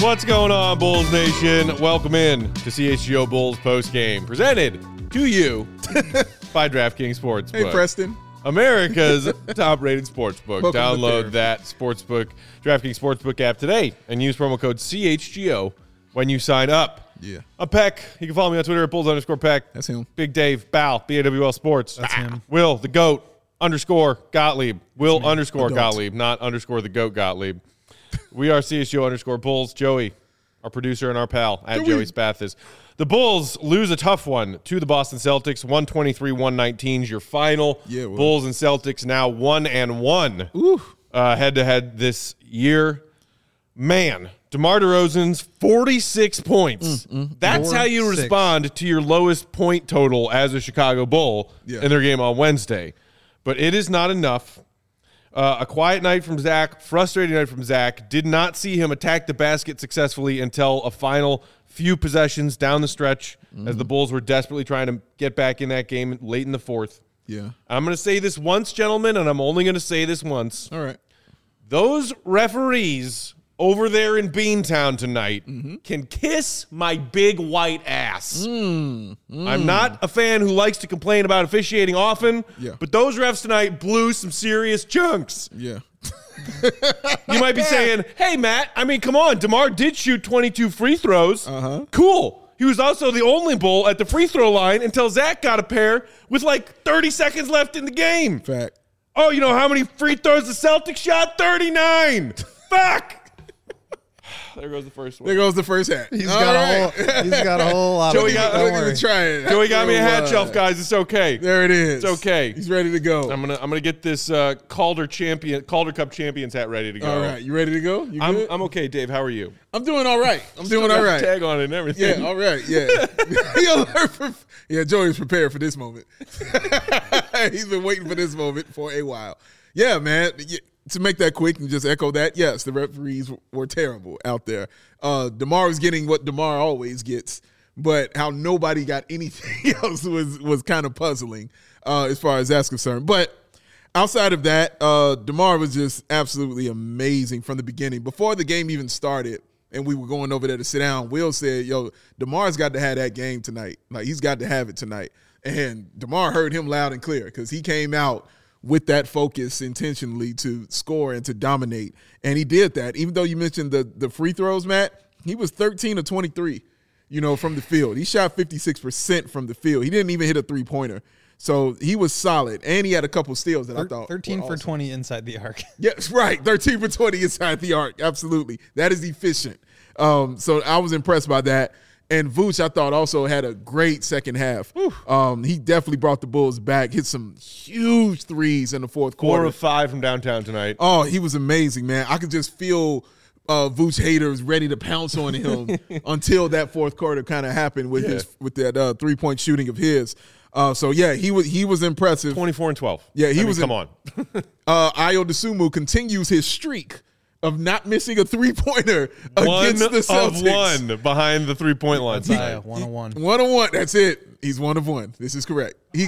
What's going on, Bulls Nation? Welcome in to CHGO Bulls postgame, presented to you by DraftKings Sportsbook. Hey, Preston. America's top-rated sportsbook. Welcome Download that sportsbook, DraftKings Sportsbook app today and use promo code CHGO when you sign up. Yeah. I'm Peck. You can follow me on Twitter at Bulls_Peck. That's him. Big Dave, Bal, BAWL Sports. That's him. Will, the GOAT, _Gottlieb. Will _ Adult. Gottlieb, not _ the GOAT Gottlieb. We are CHGO _Bulls. Joey, our producer and our pal, at Joey Spathis. The Bulls lose a tough one to the Boston Celtics. 123-119 is your final. Yeah, well. Bulls and Celtics now 1-1 head-to-head this year. Man, DeMar DeRozan's 46 points. That's how you 46. respond to your lowest point total as a Chicago Bull in their game on Wednesday. But it is not enough. A quiet night from Zach, frustrating night from Zach. Did not see him attack the basket successfully until a final few possessions down the stretch as the Bulls were desperately trying to get back in that game late in the fourth. Yeah. I'm going to say this once, gentlemen, and I'm only going to say this once. All right. Those referees over there in Beantown tonight can kiss my big white ass. I'm not a fan who likes to complain about officiating often, but those refs tonight blew some serious chunks. Yeah. You might be saying, hey, Matt, I mean, come on. DeMar did shoot 22 free throws. Cool. He was also the only Bull at the free throw line until Zach got a pair with like 30 seconds left in the game. Fact. Oh, you know how many free throws the Celtics shot? 39. Fuck. There goes the first one. There goes the first hat. He's got a whole lot Joey of got- don't Don't worry. even try it. Joey got me a hat shelf, guys. It's okay. There it is. It's okay. He's ready to go. I'm gonna get this Calder Cup champions hat ready to go. All right. You ready to go? You good? I'm okay, Dave. How are you? I'm doing all right. I'm doing all Got the right. Tag on it and everything. Yeah, all right. Yeah. He alert for, yeah, Joey's prepared for this moment. He's been waiting for this moment for a while. Yeah, man. Yeah, to make that quick and just echo that, yes, the referees were terrible out there. DeMar was getting what DeMar always gets, but how nobody got anything else was kind of puzzling as far as that's concerned. But outside of that, DeMar was just absolutely amazing from the beginning. Before the game even started and we were going over there to sit down, Will said, yo, DeMar's got to have that game tonight. Like, he's got to have it tonight. And DeMar heard him loud and clear because he came out with that focus intentionally to score and to dominate. And he did that. Even though you mentioned the free throws, Matt, he was 13 of 23, from the field. He shot 56% from the field. He didn't even hit a three-pointer. So he was solid. And he had a couple steals that I thought 13 were for awesome. 20 inside the arc. Yes, right. 13 for 20 inside the arc. Absolutely. That is efficient. So I was impressed by that. And Vooch, I thought, also had a great second half. He definitely brought the Bulls back, hit some huge threes in the fourth 4 quarter. of 5 from downtown tonight. Oh, he was amazing, man. I could just feel Vooch haters ready to pounce on him until that fourth quarter kind of happened with that 3-point shooting of his. So yeah, he was impressive. 24 and 12. Yeah, come on. Ayo Dosunmu continues his streak of not missing a three-pointer against the Celtics. One of one behind the 3-point line tonight. 101. 1-on-1. That's it. He's 1 of 1. This is correct. He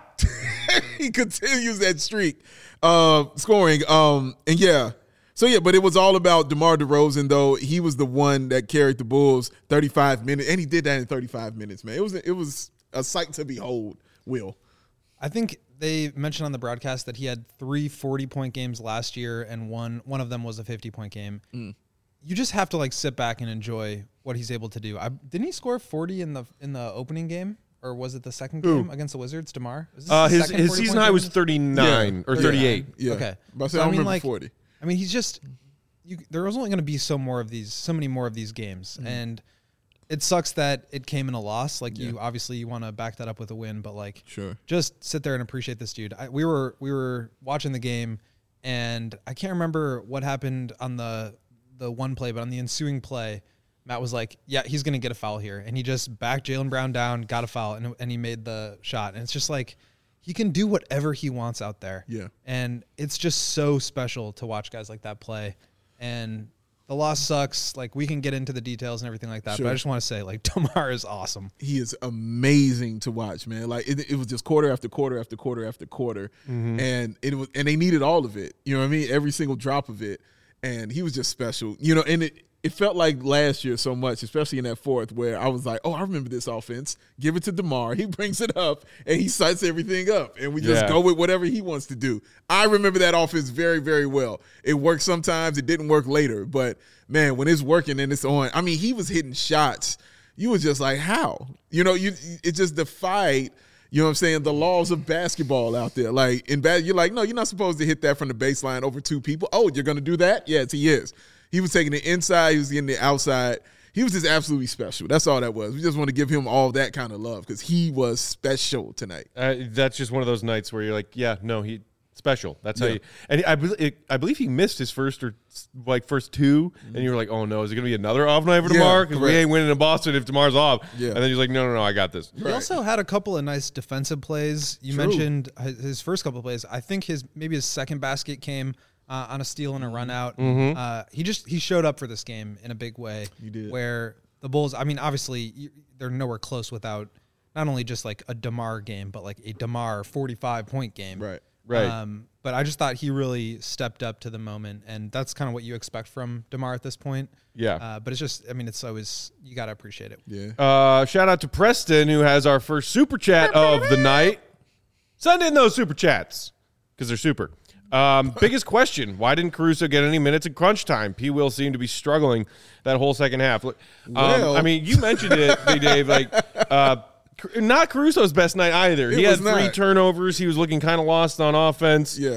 continues that streak, scoring. And yeah. So yeah, but it was all about DeMar DeRozan, though. He was the one that carried the Bulls 35 minutes, and he did that in 35 minutes, man. It was a sight to behold, Will. I think they mentioned on the broadcast that he had 3 40-point games last year, and one of them was a 50-point game. You just have to sit back and enjoy what he's able to do. Didn't he score 40 in the opening game, or was it the second game against the Wizards? DeMar? His season high was 39 or 38. Yeah. Okay. But I remember 40. I mean, he's just there was only going to be so many more of these games, and it sucks that it came in a loss. You obviously you want to back that up with a win, but Sure. just sit there and appreciate this dude. We were watching the game, and I can't remember what happened on the one play, but on the ensuing play, Matt was like, yeah, he's going to get a foul here. And he just backed Jaylen Brown down, got a foul, and he made the shot. And it's just he can do whatever he wants out there. Yeah. And it's just so special to watch guys like that play. And the loss sucks. We can get into the details and everything like that. Sure. But I just want to say, DeMar is awesome. He is amazing to watch, man. It was just quarter after quarter after quarter after quarter. And they needed all of it. You know what I mean? Every single drop of it. And he was just special. And it felt like last year so much, especially in that fourth, where I was like, oh, I remember this offense. Give it to DeMar. He brings it up, and he sets everything up, and we just go with whatever he wants to do. I remember that offense very, very well. It worked sometimes. It didn't work later. But, man, when it's working and it's on, I mean, he was hitting shots. You was just like, how? You know, it just defied, you know what I'm saying, the laws of basketball out there. Like, you're like, no, you're not supposed to hit that from the baseline over two people. Oh, you're going to do that? Yes, he is. He was taking the inside. He was getting the outside. He was just absolutely special. That's all that was. We just want to give him all that kind of love because he was special tonight. That's just one of those nights where you're like, yeah, no, he special. That's how you. And I believe he missed his first two, and you were like, oh no, is it going to be another off night for DeMar? Because we ain't winning in Boston if DeMar's off. Yeah. And then he's like, no, I got this. He also had a couple of nice defensive plays. You mentioned his first couple of plays. I think maybe his second basket came on a steal and a run out. He showed up for this game in a big way. He did. Where the Bulls, I mean, obviously they're nowhere close without not only just like a DeMar game, but like a DeMar 45-point game. Right. But I just thought he really stepped up to the moment, and that's kind of what you expect from DeMar at this point. Yeah. But it's just, I mean, it's always, you got to appreciate it. Yeah. Shout out to Preston, who has our first super chat of the night. Send in those super chats because they're super. Biggest question: why didn't Caruso get any minutes in crunch time? P. Will seemed to be struggling that whole second half. I mean, you mentioned it, Big Dave. Like, not Caruso's best night either. He had 3 turnovers. He was looking kind of lost on offense. Yeah.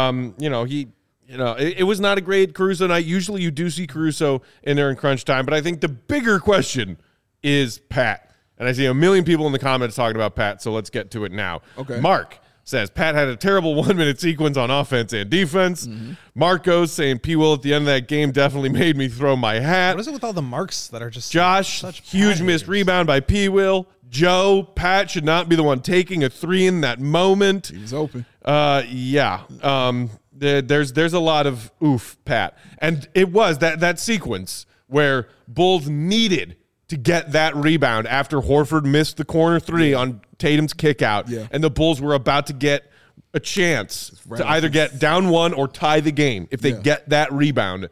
It was not a great Caruso night. Usually, you do see Caruso in there in crunch time, but I think the bigger question is Pat. And I see a million people in the comments talking about Pat, so let's get to it now. Okay. Mark says, Pat had a terrible 1-minute sequence on offense and defense. Marcos saying, P. Will at the end of that game definitely made me throw my hat. What is it with all the marks that are just Josh, such huge missed rebound by P. Will. Joe, Pat should not be the one taking a 3 in that moment. He was open. There's a lot of oof, Pat. And it was that sequence where Bulls needed to get that rebound after Horford missed the corner 3 on Tatum's kick out. Yeah. And the Bulls were about to get a chance to either get down 1 or tie the game. If they get that rebound,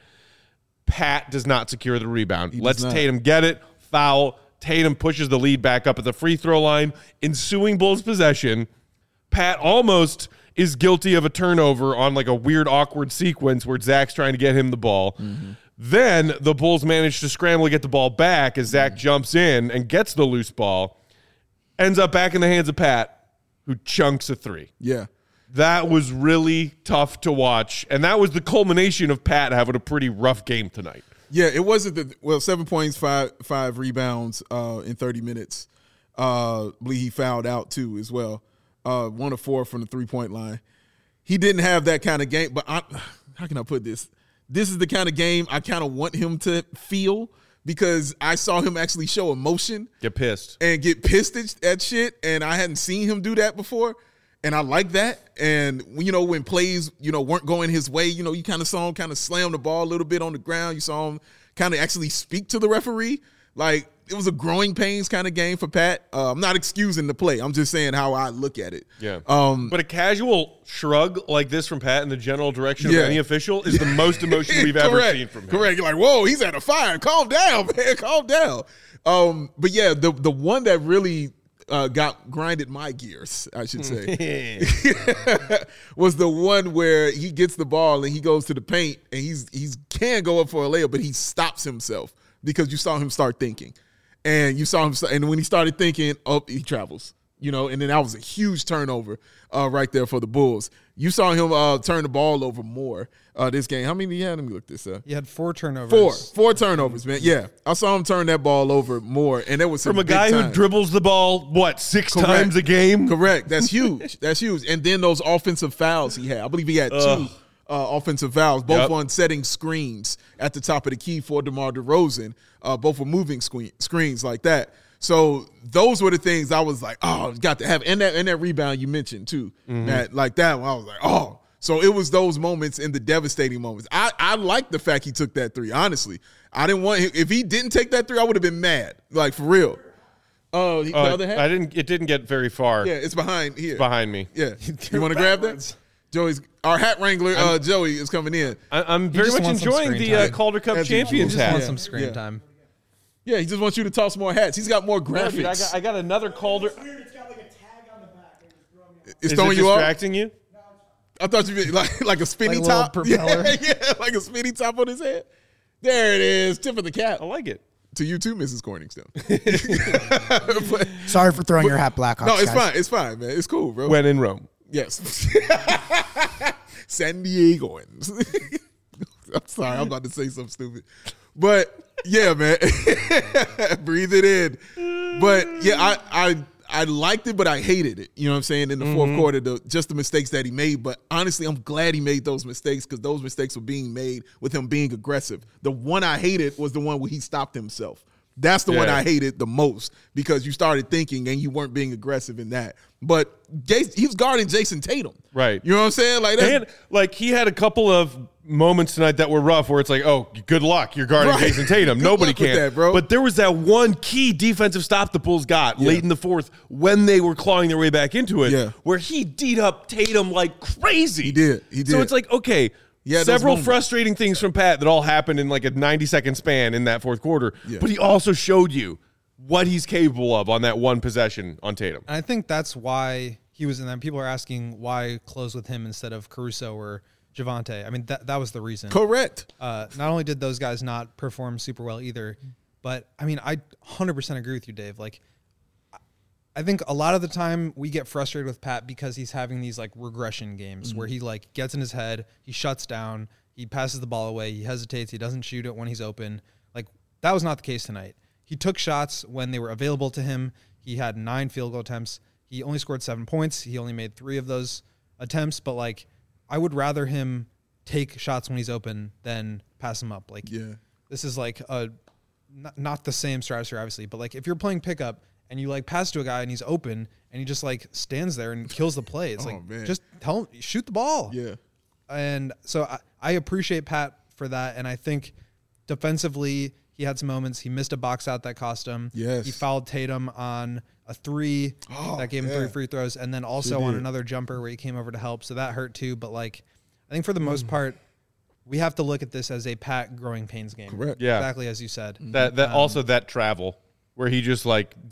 Pat does not secure the rebound. Lets Tatum get it, foul. Tatum pushes the lead back up at the free throw line. Ensuing Bulls possession, Pat almost is guilty of a turnover on like a weird, awkward sequence where Zach's trying to get him the ball. Then the Bulls manage to scramble to get the ball back as Zach jumps in and gets the loose ball. Ends up back in the hands of Pat, who chunks a 3. Yeah. That was really tough to watch. And that was the culmination of Pat having a pretty rough game tonight. Yeah, it wasn't 7 points, five rebounds in 30 minutes. I believe he fouled out too as well. 1 of 4 from the 3-point line. He didn't have that kind of game, but how can I put this? This is the kind of game I kind of want him to feel because I saw him actually show emotion. Get pissed at shit, and I hadn't seen him do that before. And I like that. And, when plays, weren't going his way, you kind of saw him kind of slam the ball a little bit on the ground. You saw him kind of actually speak to the referee. Like, it was a growing pains kind of game for Pat. I'm not excusing the play. I'm just saying how I look at it. Yeah. But a casual shrug like this from Pat in the general direction of any official is the most emotion we've ever seen from him. Correct. You're like, whoa, he's at a fire. Calm down, man. Calm down. But, yeah, the one that really grinded my gears, I should say, was the one where he gets the ball and he goes to the paint and he can go up for a layup, but he stops himself because you saw him start thinking. And you saw him, and when he started thinking, he travels, and then that was a huge turnover right there for the Bulls. You saw him turn the ball over more this game. How many did he have? Let me look this up. He had 4 turnovers. Four turnovers, man. Yeah, I saw him turn that ball over more, and it was from a guy who dribbles the ball 6 times a game. Correct. That's huge. That's huge. And then those offensive fouls he had. I believe he had 2 offensive fouls, both on setting screens at the top of the key for DeMar DeRozan. Both were moving screens like that. So those were the things I was like, got to have. And that rebound you mentioned too, Matt, like that one, I was like, oh. So it was those moments and the devastating moments. I like the fact he took that 3, honestly. I didn't want him. If he didn't take that 3, I would have been mad, like for real. Oh, the other half? It didn't get very far. Yeah, it's behind here. It's behind me. Yeah. You want to grab that? Our hat wrangler, Joey, is coming in. I'm very much enjoying the Calder Cup Champions hat. He just wants some screen time. Yeah, he just wants you to toss more hats. He's got more graphics. Dude, I got another Calder. It's weird. It's got like a tag on the back. It's Is throwing it you off? distracting you? I thought you meant like a spinny Like a little top. propeller. Yeah, like a spinny top on his head. There it is. Tip of the cap. I like it. To you too, Mrs. Corningstone. Sorry for throwing your hat, Blackhawks. No, it's guys. fine. It's fine, man. It's cool, bro. When in Rome. Yes. San Diegoans. I'm sorry. I'm about to say something stupid. But, yeah, man. Breathe it in. But, yeah, I liked it, but I hated it. You know what I'm saying? In the fourth quarter, just the mistakes that he made. But honestly, I'm glad he made those mistakes because those mistakes were being made with him being aggressive. The one I hated was the one where he stopped himself. That's the one I hated the most because you started thinking and you weren't being aggressive in that. But he was guarding Jason Tatum. Right. You know what I'm saying? Like he had a couple of moments tonight that were rough where it's like, oh, good luck. You're guarding Jason Tatum. Nobody can. That, bro. But there was that one key defensive stop the Bulls got late in the fourth when they were clawing their way back into it where he D'd up Tatum like crazy. He did. So it's like, okay, several frustrating things from Pat that all happened in like a 90-second span in that fourth quarter. Yeah. But he also showed you what he's capable of on that one possession on Tatum. And I think that's why he was in that. People are asking why close with him instead of Caruso or Javonte. I mean, that was the reason. Correct. Not only did those guys not perform super well either, but I mean, I 100% agree with you, Dave. Like, I think a lot of the time we get frustrated with Pat because he's having these like regression games where he like gets in his head, he shuts down, he passes the ball away, he hesitates, he doesn't shoot it when he's open. Like, that was not the case tonight. He took shots when they were available to him. He had 9 field goal attempts. He only scored 7 points. He only made 3 of those attempts, but like, I would rather him take shots when he's open than pass him up. Like, this is like not the same stratosphere, obviously, but like if you're playing pickup and you like pass to a guy and he's open and he just like stands there and kills the play, it's just tell him, shoot the ball. Yeah. And so I appreciate Pat for that. And I think defensively, he had some moments. He missed a box out that cost him. Yes. He fouled Tatum on a 3 that gave him 3 free throws, and then also on another jumper where he came over to help. So that hurt too. But like, I think for the most part, we have to look at this as a Pat growing pains game. Correct. Yeah. Exactly as you said. That also that travel where he just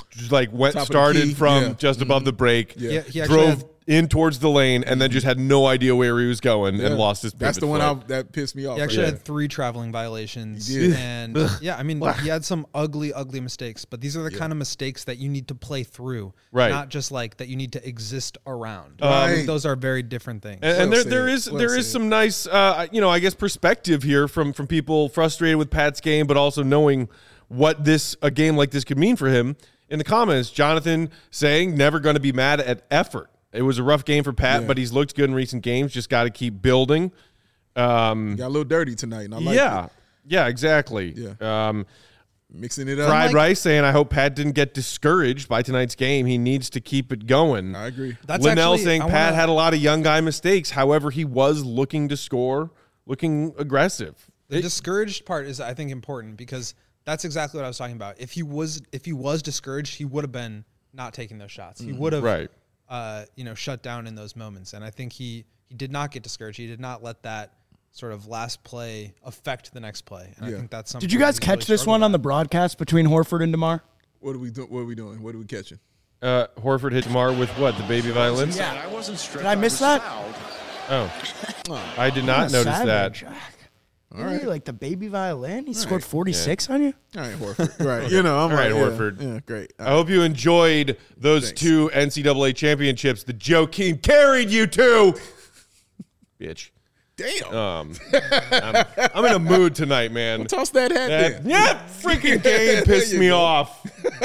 started from just above the break, He drove in towards the lane, and then just had no idea where he was going and lost his pivot. That's the one that pissed me off. He actually had 3 traveling violations. He did. And I mean, he had some ugly mistakes, but these are the kind of mistakes that you need to play through, not just like that you need to exist around. Those are very different things. And there is some nice, I guess perspective here from people frustrated with Pat's game, but also knowing what a game like this could mean for him. In the comments, Jonathan saying never going to be mad at effort. It was a rough game for Pat, but he's looked good in recent games. Just got to keep building. Got a little dirty tonight, and I like it. Yeah, exactly. Yeah. Mixing it up. Fried Rice saying, I hope Pat didn't get discouraged by tonight's game. He needs to keep it going. I agree. Linnell saying Pat had a lot of young guy mistakes. However, he was looking to score, looking aggressive. The discouraged part is, I think, important because that's exactly what I was talking about. If he was discouraged, he would have been not taking those shots. He would have shut down in those moments. And I think he did not get discouraged. He did not let that sort of last play affect the next play. And I think that's something. Did you guys catch this one on the broadcast between Horford and DeMar? What are we doing? What are we catching? Horford hit DeMar with what? The baby violins? Yeah. Did I miss that? Oh. I did not notice that. All right. Like the baby violin? He scored 46 on you? All right, Horford. Right. I'm all right, Horford. Yeah, great. I hope you enjoyed those 2 NCAA championships that Joe King carried you to. Bitch. Damn. I'm in a mood tonight, man. Well, toss that hat there. Yeah, freaking game pissed me off.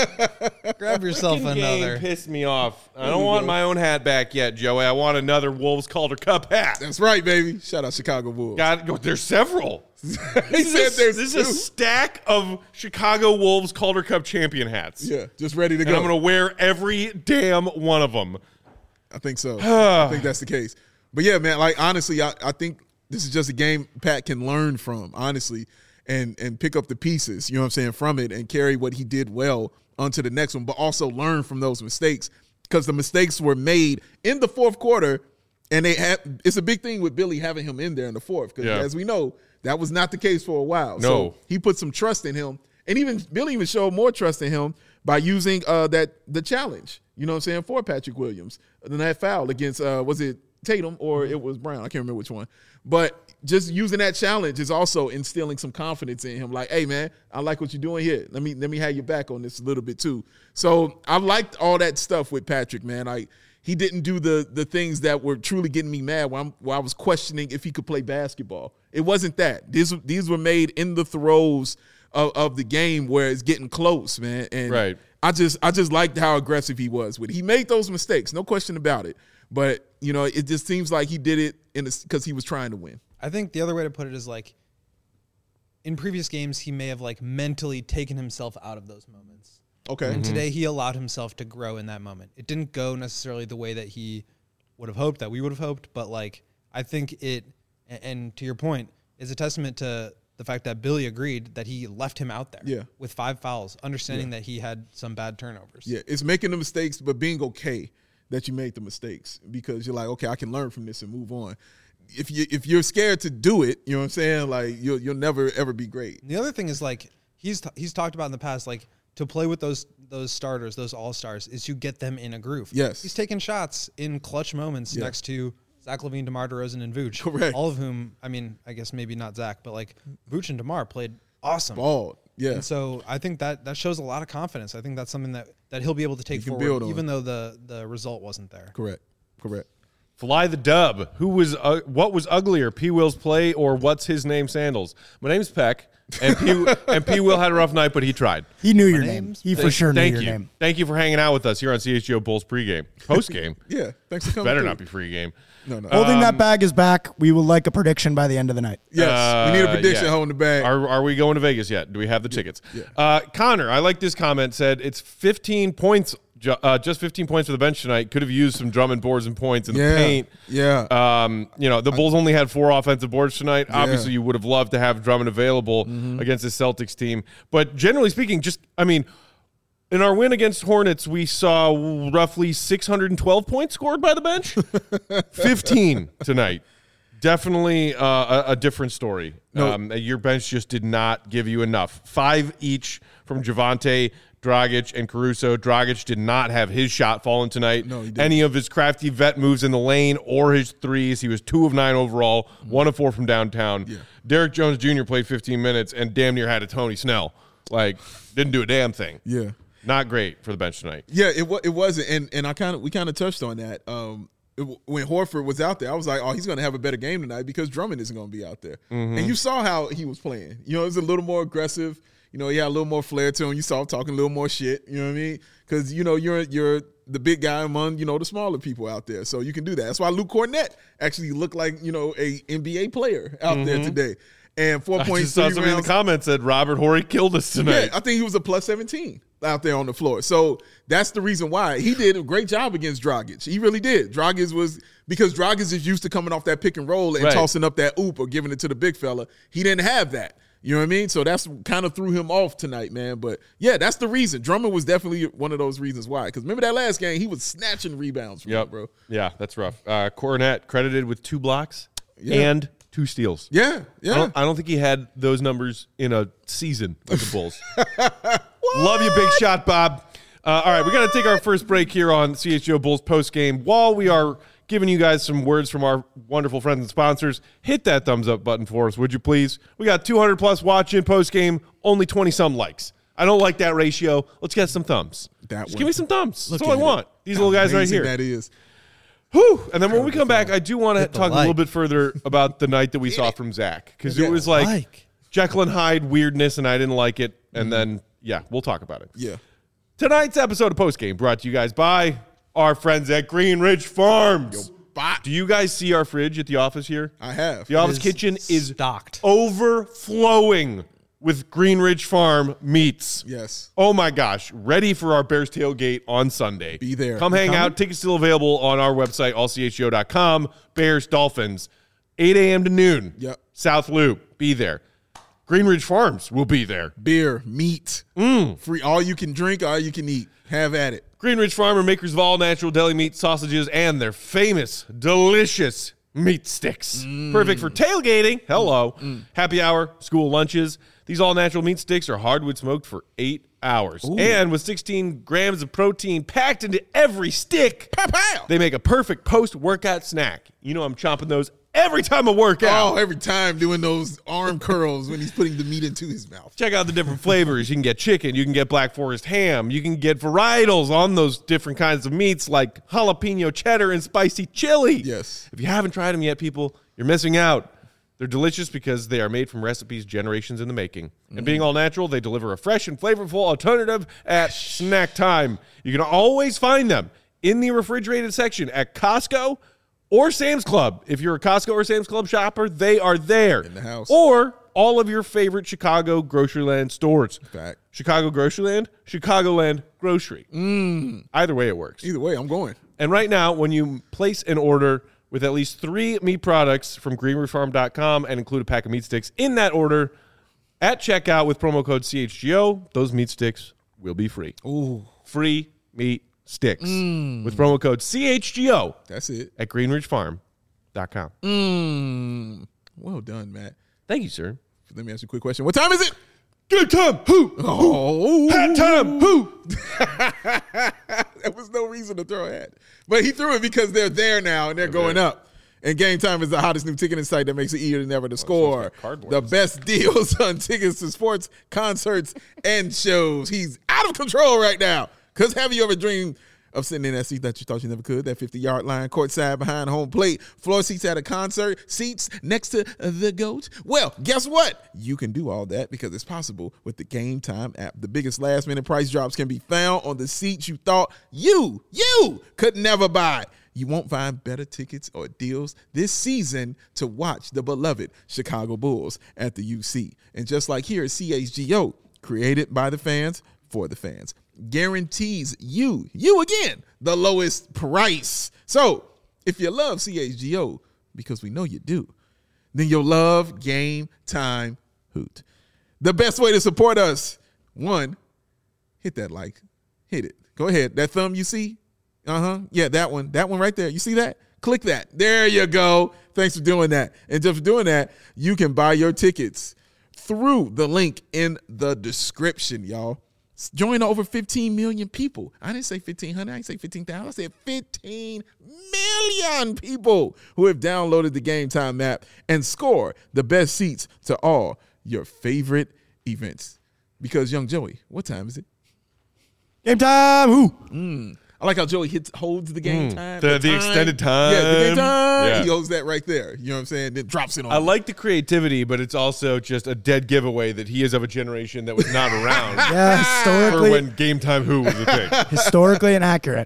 Grab yourself Freaking another. Game pissed me off. I don't want my own hat back yet, Joey. I want another Wolves Calder Cup hat. That's right, baby. Shout out Chicago Bulls. There's several. This is a stack of Chicago Wolves Calder Cup champion hats. Yeah, just ready to and go. I'm going to wear every damn one of them. I think so. I think that's the case. But yeah, man, like honestly, I think this is just a game Pat can learn from, honestly, and pick up the pieces, you know what I'm saying, from it and carry what he did well onto the next one, but also learn from those mistakes because the mistakes were made in the fourth quarter And it's a big thing with Billy having him in there in the fourth because, as we know, that was not the case for a while. No. So he put some trust in him. And Billy even showed more trust in him by using the challenge, you know what I'm saying, for Patrick Williams. Then that foul against, was it Tatum or it was Brown? I can't remember which one. But just using that challenge is also instilling some confidence in him. Like, hey, man, I like what you're doing here. Let me have your back on this a little bit too. So I liked all that stuff with Patrick, man. He didn't do the things that were truly getting me mad while I was questioning if he could play basketball. It wasn't that. These were made in the throes of the game where it's getting close, man. And right. I just liked how aggressive he was with it. He made those mistakes, no question about it. But, you know, it just seems like he did it because he was trying to win. I think the other way to put it is like in previous games, he may have like mentally taken himself out of those moments. Okay. And today he allowed himself to grow in that moment. It didn't go necessarily the way that he would have hoped, that we would have hoped, but like I think it, and to your point, is a testament to the fact that Billy agreed that he left him out there with 5 fouls, understanding that he had some bad turnovers. Yeah, it's making the mistakes, but being okay that you made the mistakes because you're like, okay, I can learn from this and move on. If you're scared to do it, you know what I'm saying? Like you'll never ever be great. The other thing is like he's talked about in the past, like to play with those starters, those all-stars, is you get them in a groove. Yes, he's taking shots in clutch moments next to Zach LaVine, DeMar DeRozan, and Vooch. Correct. All of whom, I mean, I guess maybe not Zach, but like Vooch and DeMar played awesome. Ball. Yeah. And so I think that shows a lot of confidence. I think that's something that he'll be able to take forward, even though the result wasn't there. Correct. Fly the dub. What was uglier, P. Will's play or what's his name sandals? My name's Peck, and P. Will had a rough night, but he tried. He knew your name. He for sure knew your name. Thank you for hanging out with us here on CHGO Bulls pregame, postgame. Yeah, thanks for coming. Better through. not be pregame. No. Holding that bag is back. We would like a prediction by the end of the night. Yes, we need a prediction holding the bag. Are we going to Vegas yet? Do we have the tickets? Yeah. Connor, I like this comment, said it's 15 points, just 15 points for the bench tonight. Could have used some Drummond boards and points in the paint. Yeah. The Bulls only had 4 offensive boards tonight. Yeah. Obviously, you would have loved to have Drummond available against the Celtics team. But generally speaking, in our win against Hornets, we saw roughly 612 points scored by the bench. 15 tonight. Definitely a different story. No. Your bench just did not give you enough. 5 each from Javonte, Dragic, and Caruso. Dragic did not have his shot fallen tonight. No, he didn't. Any of his crafty vet moves in the lane or his threes. He was 2 of 9 overall, 1 of 4 from downtown. Yeah. Derrick Jones Jr. played 15 minutes and damn near had a Tony Snell. Didn't do a damn thing. Yeah. Not great for the bench tonight. Yeah, it wasn't, and we kind of touched on that. When Horford was out there, I was like, oh, he's going to have a better game tonight because Drummond isn't going to be out there. Mm-hmm. And you saw how he was playing. You know, it was a little more aggressive. You know, he had a little more flair to him. You saw him talking a little more shit. You know what I mean? Because you know you're the big guy among the smaller people out there, so you can do that. That's why Luke Cornett actually looked like a NBA player out there today. And 4 points. I just saw somebody in the comments said Robert Horry killed us tonight. Yeah, I think he was a plus 17 out there on the floor. So that's the reason why he did a great job against Dragic. He really did. Because Dragic is used to coming off that pick and roll and tossing up that oop or giving it to the big fella. He didn't have that. You know what I mean? So that's kind of threw him off tonight, man. But yeah, that's the reason. Drummond was definitely one of those reasons why. Because remember that last game, he was snatching rebounds from him, bro. Yeah, that's rough. Cornett credited with 2 blocks and 2 steals. Yeah. I don't think he had those numbers in a season with the Bulls. Love you, big shot, Bob. All right, we got to take our first break here on CHGO Bulls postgame. While we are giving you guys some words from our wonderful friends and sponsors, hit that thumbs up button for us, would you please? We got 200 plus watch in postgame, only 20-some likes. I don't like that ratio. Let's get some thumbs. Just give me some thumbs. That's all I want. These little guys right here. That is. Whew. And then when we come back, I do want to talk a little bit further about the night that we saw from Zach. Because it was like Jekyll and Hyde weirdness, and I didn't like it. And then, we'll talk about it. Yeah. Tonight's episode of Postgame brought to you guys by our friends at Green Ridge Farms. Do you guys see our fridge at the office here? I have. The office kitchen is stocked, overflowing with Green Ridge Farm meats. Yes. Oh my gosh. Ready for our Bears tailgate on Sunday. Be there. Come hang out. Tickets still available on our website, allchgo.com. Bears, Dolphins, 8 a.m. to noon. Yep. South Loop. Be there. Greenridge Farms will be there. Beer, meat, free, all you can drink, all you can eat. Have at it. Greenridge Farm are makers of all natural deli meat, sausages, and their famous, delicious meat sticks. Perfect for tailgating. Hello. Happy hour, school lunches. These all-natural meat sticks are hardwood smoked for 8 hours. Ooh. And with 16 grams of protein packed into every stick, Pow! They make a perfect post-workout snack. You know I'm chomping those every time I work out. Oh, every time doing those arm curls when he's putting the meat into his mouth. Check out the different flavors. You can get chicken. You can get Black Forest ham. You can get varietals on those different kinds of meats like jalapeno cheddar and spicy chili. Yes. If you haven't tried them yet, people, you're missing out. They're delicious because they are made from recipes generations in the making. And being all natural, they deliver a fresh and flavorful alternative at snack time. You can always find them in the refrigerated section at Costco or Sam's Club. If you're a Costco or Sam's Club shopper, they are there. In the house. Or all of your favorite Chicago Groceryland stores. Fact. Chicago Groceryland, Chicagoland Grocery. Either way it works. Either way, I'm going. And right now, when you place an order with at least 3 meat products from greenridgefarm.com and include a pack of meat sticks in that order at checkout with promo code CHGO, those meat sticks will be free. Ooh. Free meat sticks with promo code CHGO. That's it. At greenridgefarm.com. Well done, Matt. Thank you, sir. Let me ask you a quick question. What time is it? Good time. Who? Oh. Hat time. Who? There was no reason to throw a hat. But he threw it because they're there now and they're going up. And Game Time is the hottest new ticketing site that makes it easier than ever to score. The best deals on tickets to sports, concerts, and shows. He's out of control right now. Because have you ever dreamed of sitting in that seat that you thought you never could, that 50-yard line, courtside behind home plate, floor seats at a concert, seats next to the GOAT? Well, guess what? You can do all that because it's possible with the Game Time app. The biggest last-minute price drops can be found on the seats you thought you could never buy. You won't find better tickets or deals this season to watch the beloved Chicago Bulls at the UC. And just like here at CHGO, created by the fans for the fans, guarantees you again, the lowest price. So if you love CHGO, because we know you do, then you'll love Game Time Hoot. The best way to support us, 1, hit that like. Hit it. Go ahead. That thumb you see? Yeah, that one right there. You see that? Click that. There you go. Thanks for doing that. And just for doing that, you can buy your tickets through the link in the description, y'all. Join over 15 million people. I didn't say 1,500. I didn't say 15,000. I said 15 million people who have downloaded the Game Time app and score the best seats to all your favorite events. Because, Young Joey, what time is it? Game time. Who? I like how Joey holds the game time. The extended time. Yeah, the game time. Yeah. He holds that right there. You know what I'm saying? Then drops it on. I like the creativity, but it's also just a dead giveaway that he is of a generation that was not around Yeah, for historically, when Game Time Who was a thing. historically inaccurate.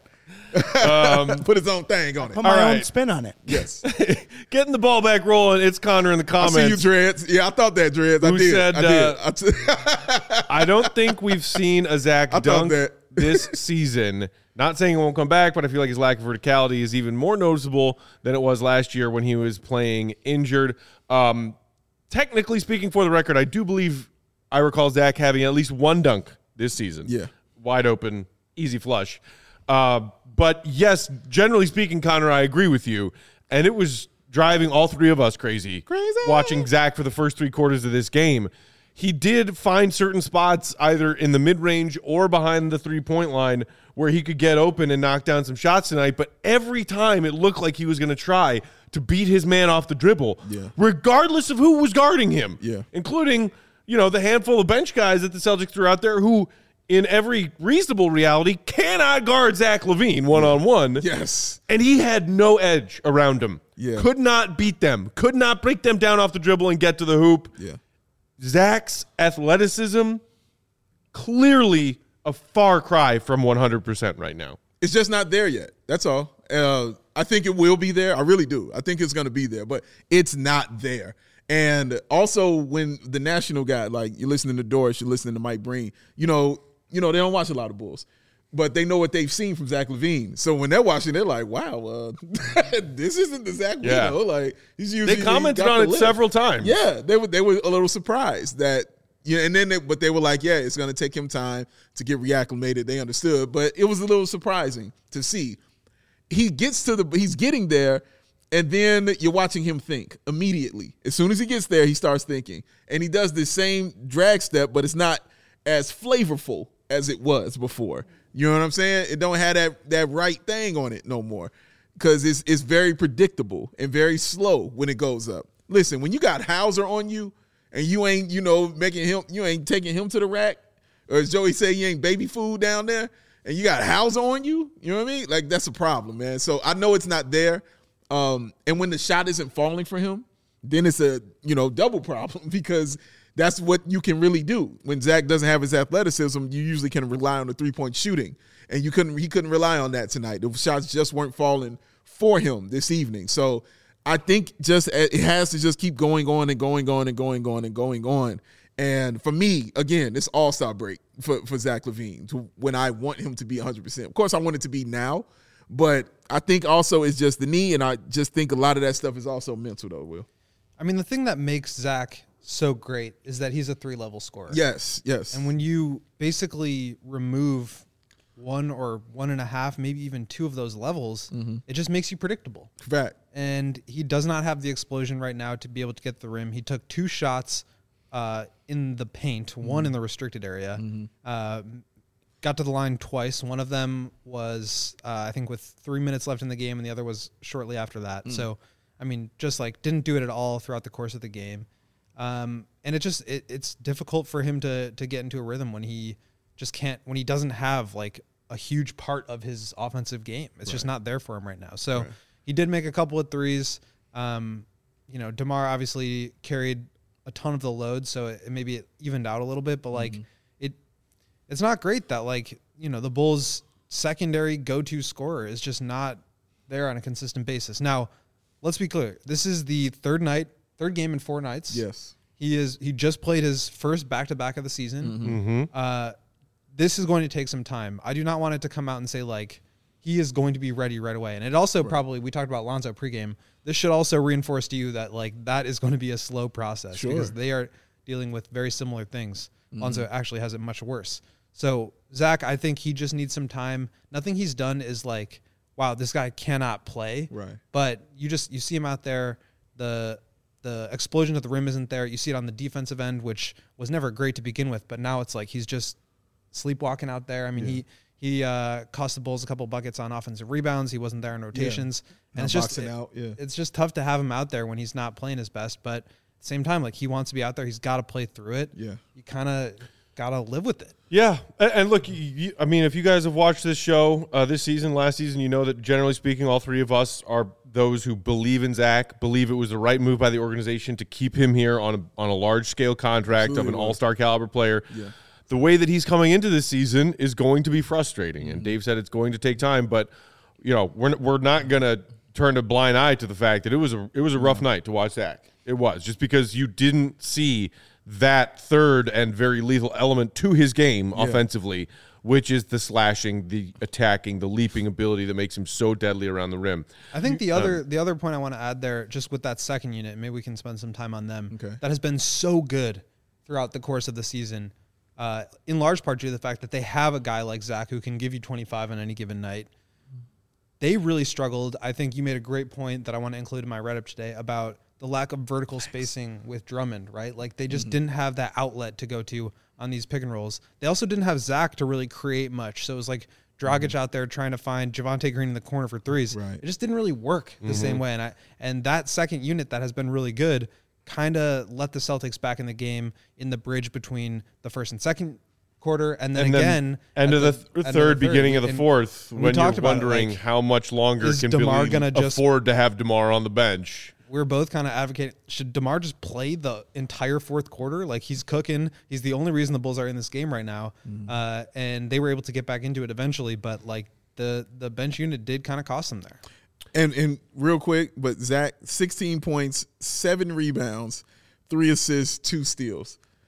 Put his own thing on it. Put my own right. spin on it. Yes. Getting the ball back rolling. It's Connor in the I comments. see you, Dreads. Yeah, I thought that, Dreads. I Who did. said, I did. I don't think we've seen a Zach I thought dunk that. this season. Not saying he won't come back, but I feel like his lack of verticality is even more noticeable than it was last year when he was playing injured. Technically speaking, for the record, I do believe I recall Zach having at least one dunk this season. Yeah. Wide open, easy flush. But yes, generally speaking, Connor, I agree with you. And it was driving all three of us crazy. Watching Zach for the first 3 quarters of this game. He did find certain spots either in the mid-range or behind the three-point line where he could get open and knock down some shots tonight. But every time it looked like he was going to try to beat his man off the dribble, regardless of who was guarding him, including, the handful of bench guys that the Celtics threw out there who, in every reasonable reality, cannot guard Zach LaVine one-on-one. Yes. And he had no edge around him. Yeah. Could not beat them. Could not break them down off the dribble and get to the hoop. Yeah. Zach's athleticism, clearly a far cry from 100% right now. It's just not there yet. That's all. I think it will be there. I really do. I think it's going to be there, but it's not there. And also when the national guy, like you're listening to Doris, you're listening to Mike Breen, they don't watch a lot of Bulls. but they know what they've seen from Zach LaVine. So when they're watching, they're like, wow, this isn't the Zach we know. Like, he's usually, they commented on it several times. Yeah, they were a little surprised that, and then but they were like, yeah, it's going to take him time to get reacclimated. They understood, but it was a little surprising to see. He's getting there, and then you're watching him think immediately. As soon as he gets there, he starts thinking, and he does the same drag step, but it's not as flavorful as it was before. You know what I'm saying? It don't have that right thing on it no more, because it's very predictable and very slow when it goes up. Listen, when you got Hauser on you and you ain't, you ain't taking him to the rack, or as Joey said, you ain't baby food down there, and you got Hauser on you, you know what I mean? Like, that's a problem, man. So I know it's not there. And when the shot isn't falling for him, then it's a, double problem, because that's what you can really do. When Zach doesn't have his athleticism, you usually can rely on the three-point shooting. And he couldn't rely on that tonight. The shots just weren't falling for him this evening. So I think it has to just keep going on and going on and going on and going on. And for me, again, it's all-star break for Zach LaVine when I want him to be 100%. Of course, I want it to be now, but I think also it's just the knee, and I just think a lot of that stuff is also mental, though, Will. I mean, the thing that makes Zach so great is that he's a 3-level scorer. Yes. And when you basically remove 1 or 1.5, maybe even 2 of those levels, it just makes you predictable. Fact. And he does not have the explosion right now to be able to get the rim. He took 2 shots in the paint, 1 in the restricted area. Got to the line twice. One of them was, I think, with 3 minutes left in the game, and the other was shortly after that. So, I mean, just like didn't do it at all throughout the course of the game. And it's difficult for him to get into a rhythm when he just can't, when he doesn't have like a huge part of his offensive game. It's just not there for him right now. So he did make a couple of threes. DeMar obviously carried a ton of the load, so maybe it evened out a little bit, but like it's not great that the Bulls' secondary go-to scorer is just not there on a consistent basis. Now, let's be clear. This is the third game in 4 nights. Yes. He just played his first back-to-back of the season. This is going to take some time. I do not want it to come out and say he is going to be ready right away. And it also probably, we talked about Lonzo pregame. This should also reinforce to you that that is going to be a slow process because they are dealing with very similar things. Lonzo actually has it much worse. So Zach, I think he just needs some time. Nothing he's done is wow, this guy cannot play. Right. But you see him out there. The explosion at the rim isn't there. You see it on the defensive end, which was never great to begin with, but now it's he's just sleepwalking out there. I mean, he cost the Bulls a couple buckets on offensive rebounds. He wasn't there in rotations. And it's just it's just tough to have him out there when he's not playing his best, but at the same time, he wants to be out there. He's got to play through it. Yeah. You kind of got to live with it. Yeah. And look, I mean, if you guys have watched this show this season, last season, you know that generally speaking, all three of us are those who believe in Zach, believe it was the right move by the organization to keep him here on a large-scale contract of an all-star caliber player. Yeah. The way that he's coming into this season is going to be frustrating, and Dave said it's going to take time, but we're not going to turn a blind eye to the fact that it was a rough night to watch Zach. It was, just because you didn't see that third and very lethal element to his game offensively, which is the slashing, the attacking, the leaping ability that makes him so deadly around the rim. I think the other point I want to add there, just with that second unit, maybe we can spend some time on them, that has been so good throughout the course of the season, in large part due to the fact that they have a guy like Zach who can give you 25 on any given night. They really struggled. I think you made a great point that I want to include in my write-up today about the lack of vertical spacing with Drummond, right? They just didn't have that outlet to go to on these pick and rolls. They also didn't have Zach to really create much. So it was Dragic out there trying to find Javonte Green in the corner for threes. Right. It just didn't really work the same way. And that second unit that has been really good kind of let the Celtics back in the game in the bridge between the first and second quarter, and then again end of the third, beginning of the fourth, when you're wondering how much longer can Billy afford to have DeMar on the bench. We're both kind of advocating, should DeMar just play the entire fourth quarter? He's cooking. He's the only reason the Bulls are in this game right now. And they were able to get back into it eventually, but the bench unit did kind of cost them there. And real quick, but Zach, 16 points, 7 rebounds, 3 assists, 2 steals.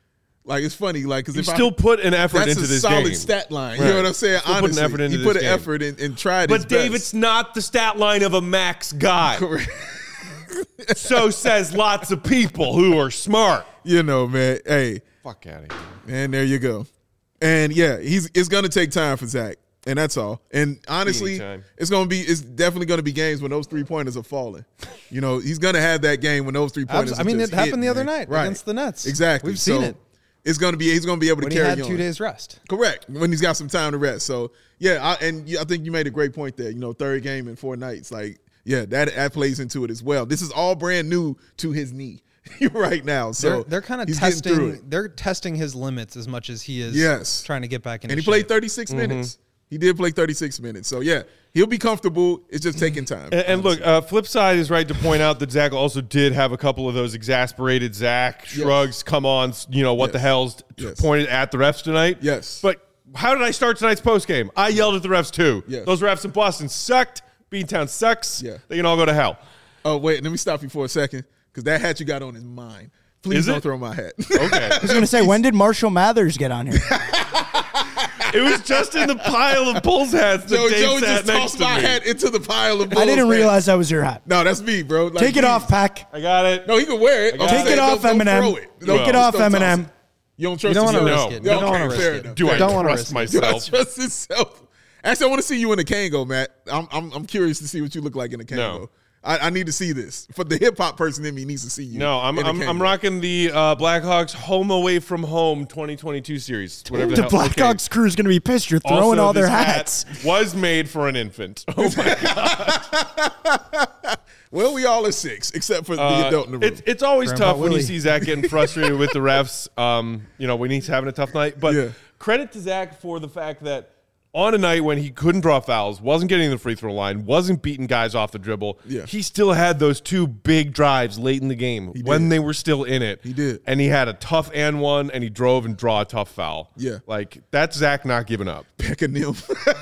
Like, it's funny. Like, because you still put an effort that's into this a solid game. stat line. Right. You know what I'm saying? Still Honestly, put an effort into he put this an game. effort and tried his But Dave, best. it's not the stat line of a max guy. Correct. So says lots of people who are smart. You know, man. Hey, Fuck out of here. and there you go. And yeah, it's going to take time for Zach, and that's all. And honestly, Anytime. it's definitely going to be games when those 3-pointers are falling. You know, he's going to have that game when those 3-pointers. I mean, are it just happened hitting, the other man. night Right. against the Nets. Exactly. We've seen So it. It's going to be. He's going to be able When to he carry had on. 2 days rest. Correct. When he's got some time to rest. So yeah, I think you made a great point there. You know, third game in 4 nights. Like, yeah, that plays into it as well. This is all brand new to his knee right now. So They're kind of he's getting through testing. it. They're testing his limits as much as he is. Yes. trying to get back in. And he played 36 minutes. He did play 36 minutes. So yeah, he'll be comfortable. It's just taking time. And look, flip side is right to point out that Zach also did have a couple of those exasperated Zach shrugs, come on, you know, what the hell's pointed at the refs tonight. Yes. But how did I start tonight's postgame? I yelled at the refs too. Yes. Those refs in Boston sucked. Beantown sucks. Yeah. They can all go to hell. Oh, wait, let me stop you for a second because that hat you got on is mine. Please Is don't it? throw my hat. Okay. I was going to say, when did Marshall Mathers get on here? It was just in the pile of Bulls hats that Joey Dave sat just next tossed to my me. hat into the pile of Bulls I didn't hats. realize that was your hat. No, that's me, bro. Like, Take it please. off, Pack. I got it. No, he can wear it. got I'm it. Take it saying, off, don't Eminem. throw it. Take it Just off, don't toss Eminem. it. You don't trust You don't want to yourself? risk it. Yeah, You don't okay, want to fair risk enough. it. Do I don't wanna trust risk it. Do I myself? trust himself? Actually, I want to see you in a Kango, Matt. I'm curious to see what you look like in a Kango. No. I need to see this. For the hip hop person in me needs to see you. No, I'm in a Kango. rocking the Blackhawks Home Away from Home 2022 series. Whatever The hell. Blackhawks crew is going to be pissed. You're throwing Also, all their this hat hats. was made for an infant. Oh my god! Well, we all are 6, except for the adult in the room. It's always Grandpa tough when you Willie. see Zach getting frustrated with the refs. You know, when he's having a tough night. But Yeah. credit to Zach for the fact that on a night when he couldn't draw fouls, wasn't getting to the free throw line, wasn't beating guys off the dribble, Yeah. he still had those 2 big drives late in the game when they were still in it. He did. And he had a tough and one, and he drove and draw a tough foul. Yeah. Like, that's Zach not giving up. Peck of Nim.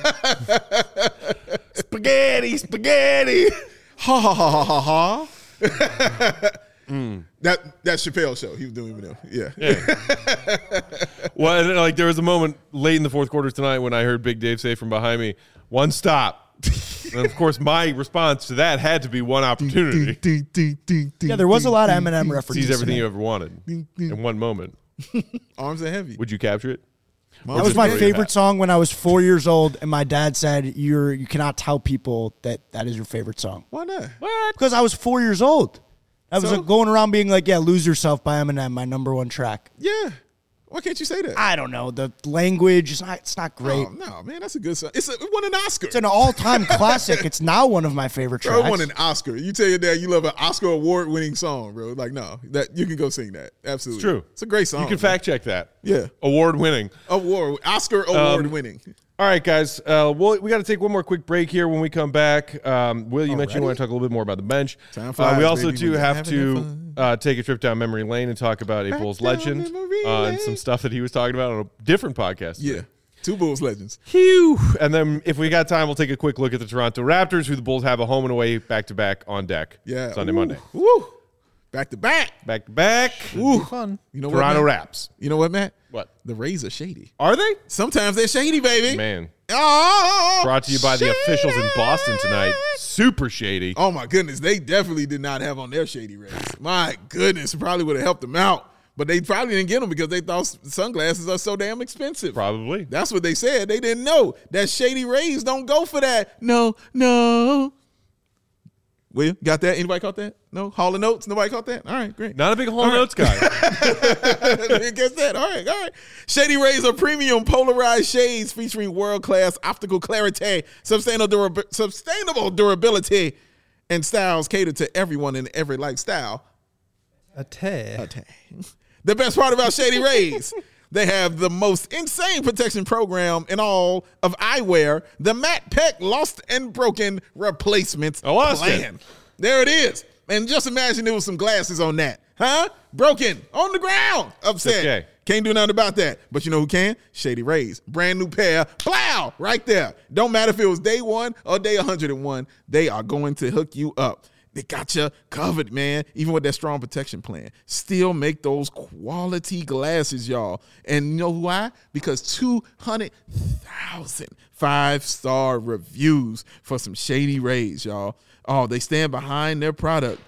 Spaghetti, spaghetti. Ha ha ha ha ha ha. That's Chappelle's show. He was doing Eminem. Yeah. Well, and, like there was a moment late in the fourth quarter tonight when I heard Big Dave say from behind me, "One stop." And of course, my response to that had to be one opportunity. Yeah, there was a lot of Eminem references. Seize everything tonight. you ever wanted in one moment. Arms are heavy. Would you capture it? That was my Just favorite song when I was 4 years old, and my dad said, "You cannot tell people that is your favorite song." Why not? Because I was 4 years old. I was So? like, going around being like, "Yeah, Lose Yourself" by Eminem, my number 1 track. Yeah. Why can't you say that? I don't know. The language is not great. Oh, no, man, that's a good song. It won an Oscar. It's an all-time classic. It's now one of my favorite Bro, tracks. it won an Oscar. You tell your dad you love an Oscar award-winning song, bro. Like, no, that you can go sing that. Absolutely, It's true. It's a great song. You can man. fact check that. Yeah. Award winning. Oscar award-winning. All right, guys. We got to take one more quick break here. When we come back, Will, you mentioned you want to talk a little bit more about the bench. Time flies, we also baby, do when you're have having to take a trip down memory lane and talk about a Bulls down legend memory and some lane. stuff that he was talking about on a different podcast. Yeah, 2 Bulls legends. Phew. And then if we got time, we'll take a quick look at the Toronto Raptors, who the Bulls have a home and away back-to-back on deck. Yeah, Sunday, Ooh. Monday. Woo, back to back. Back-to-back. Ooh, fun. You know Toronto what, Matt? Raps. You know what, Matt? What? The Rays are shady. Are they? Sometimes they're shady, baby. Man. Oh, Brought to you by the officials in Boston tonight. Super shady. Oh my goodness, they definitely did not have on their shady Rays. My goodness, it probably would have helped them out, but they probably didn't get them because they thought sunglasses are so damn expensive. Probably. That's what they said. They didn't know that shady Rays don't go for that. No. Will, got that? Anybody caught that? No? Hall of Notes? Nobody caught that? All right, great. Not a big Hall Notes guy. Guess that. All right. Shady Rays are premium polarized shades featuring world-class optical clarity, sustainable durability, and styles catered to everyone in every lifestyle. The best part about Shady Rays, they have the most insane protection program in all of eyewear, the Matt Peck Lost and Broken Replacement Plan. There it is. And just imagine there was some glasses on that. Huh? Broken. On the ground. Upset. Okay. Can't do nothing about that. But you know who can? Shady Rays. Brand new pair. Plow! Right there. Don't matter if it was day 1 or day 101. They are going to hook you up. They got you covered, man, even with that strong protection plan. Still make those quality glasses, y'all. And you know why? Because 200,000 5-star reviews for some Shady Rays, y'all. Oh, they stand behind their product.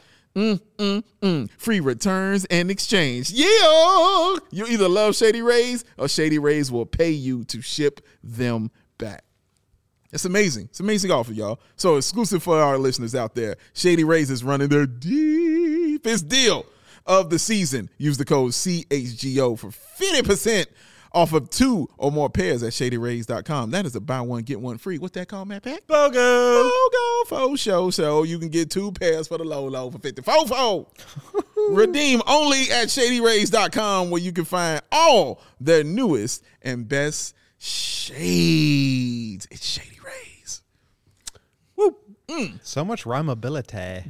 Free returns and exchange. Yeah! You either love Shady Rays or Shady Rays will pay you to ship them back. It's amazing. It's an amazing offer, y'all. So exclusive for our listeners out there, Shady Rays is running their deepest deal of the season. Use the code CHGO for 50% off of 2 or more pairs at ShadyRays.com. That is a buy one, get one free. What's that called, Matt Pack? BOGO. BOGO for show. So you can get 2 pairs for the low for 54. Redeem only at ShadyRays.com, where you can find all their newest and best shades. It's Shady Rays. Woo. So much rhymability.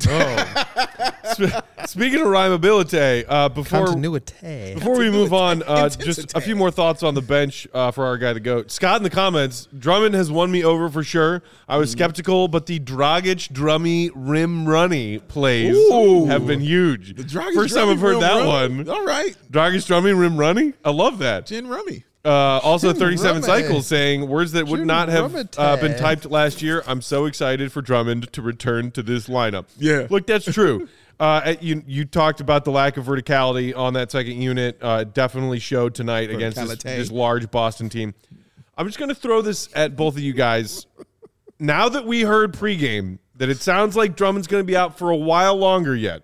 Speaking of rhymability, Continuity. before we move on, just a few more thoughts on the bench for our guy, the GOAT. Scott in the comments, Drummond has won me over for sure. I was skeptical, but the Dragic, Drummy, Rim Runny plays have been huge. The Dragic, First time I've heard that one. All right. Dragic, Drummy, Rim Runny? I love that. Gin Rummy. Also, 37 Drummond. Cycles saying words that would not have Drummond. been typed last year. I'm so excited for Drummond to return to this lineup. Yeah. Look, that's true. You talked about the lack of verticality on that second unit. Definitely showed tonight against this large Boston team. I'm just going to throw this at both of you guys. Now that we heard pregame that it sounds like Drummond's going to be out for a while longer yet.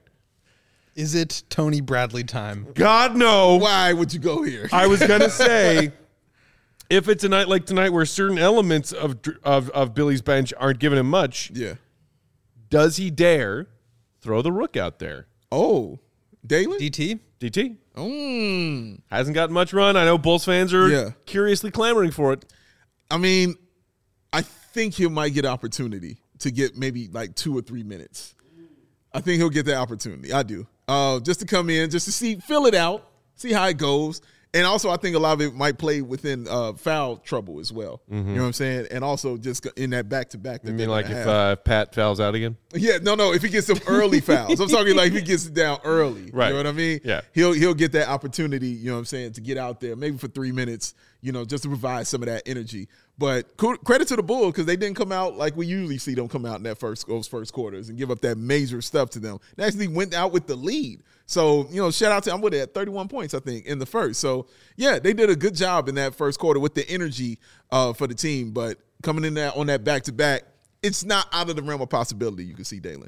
Is it Tony Bradley time? God, no. Why would you go here? I was going to say, if it's a night like tonight where certain elements of Billy's bench aren't giving him much, does he dare throw the Rook out there? Oh, Dalen? DT? Hasn't gotten much run. I know Bulls fans are curiously clamoring for it. I mean, I think he might get opportunity to get maybe like 2 or 3 minutes. I think he'll get that opportunity. I do. Just to come in, just to feel it out, see how it goes. And also, I think a lot of it might play within foul trouble as well. You know what I'm saying? And also just in that back-to-back. You mean like if Pat fouls out again? Yeah, no. If he gets some early fouls. I'm talking like if he gets it down early. Right. You know what I mean? Yeah. He'll get that opportunity, you know what I'm saying, to get out there maybe for 3 minutes, you know, just to provide some of that energy. But credit to the Bulls because they didn't come out like we usually see them come out in those first quarters and give up that major stuff to them. They actually went out with the lead. So, you know, shout out to them. I'm with it at 31 points, I think, in the first. So, yeah, they did a good job in that first quarter with the energy for the team. But coming in there on that back-to-back, it's not out of the realm of possibility you can see Dalen.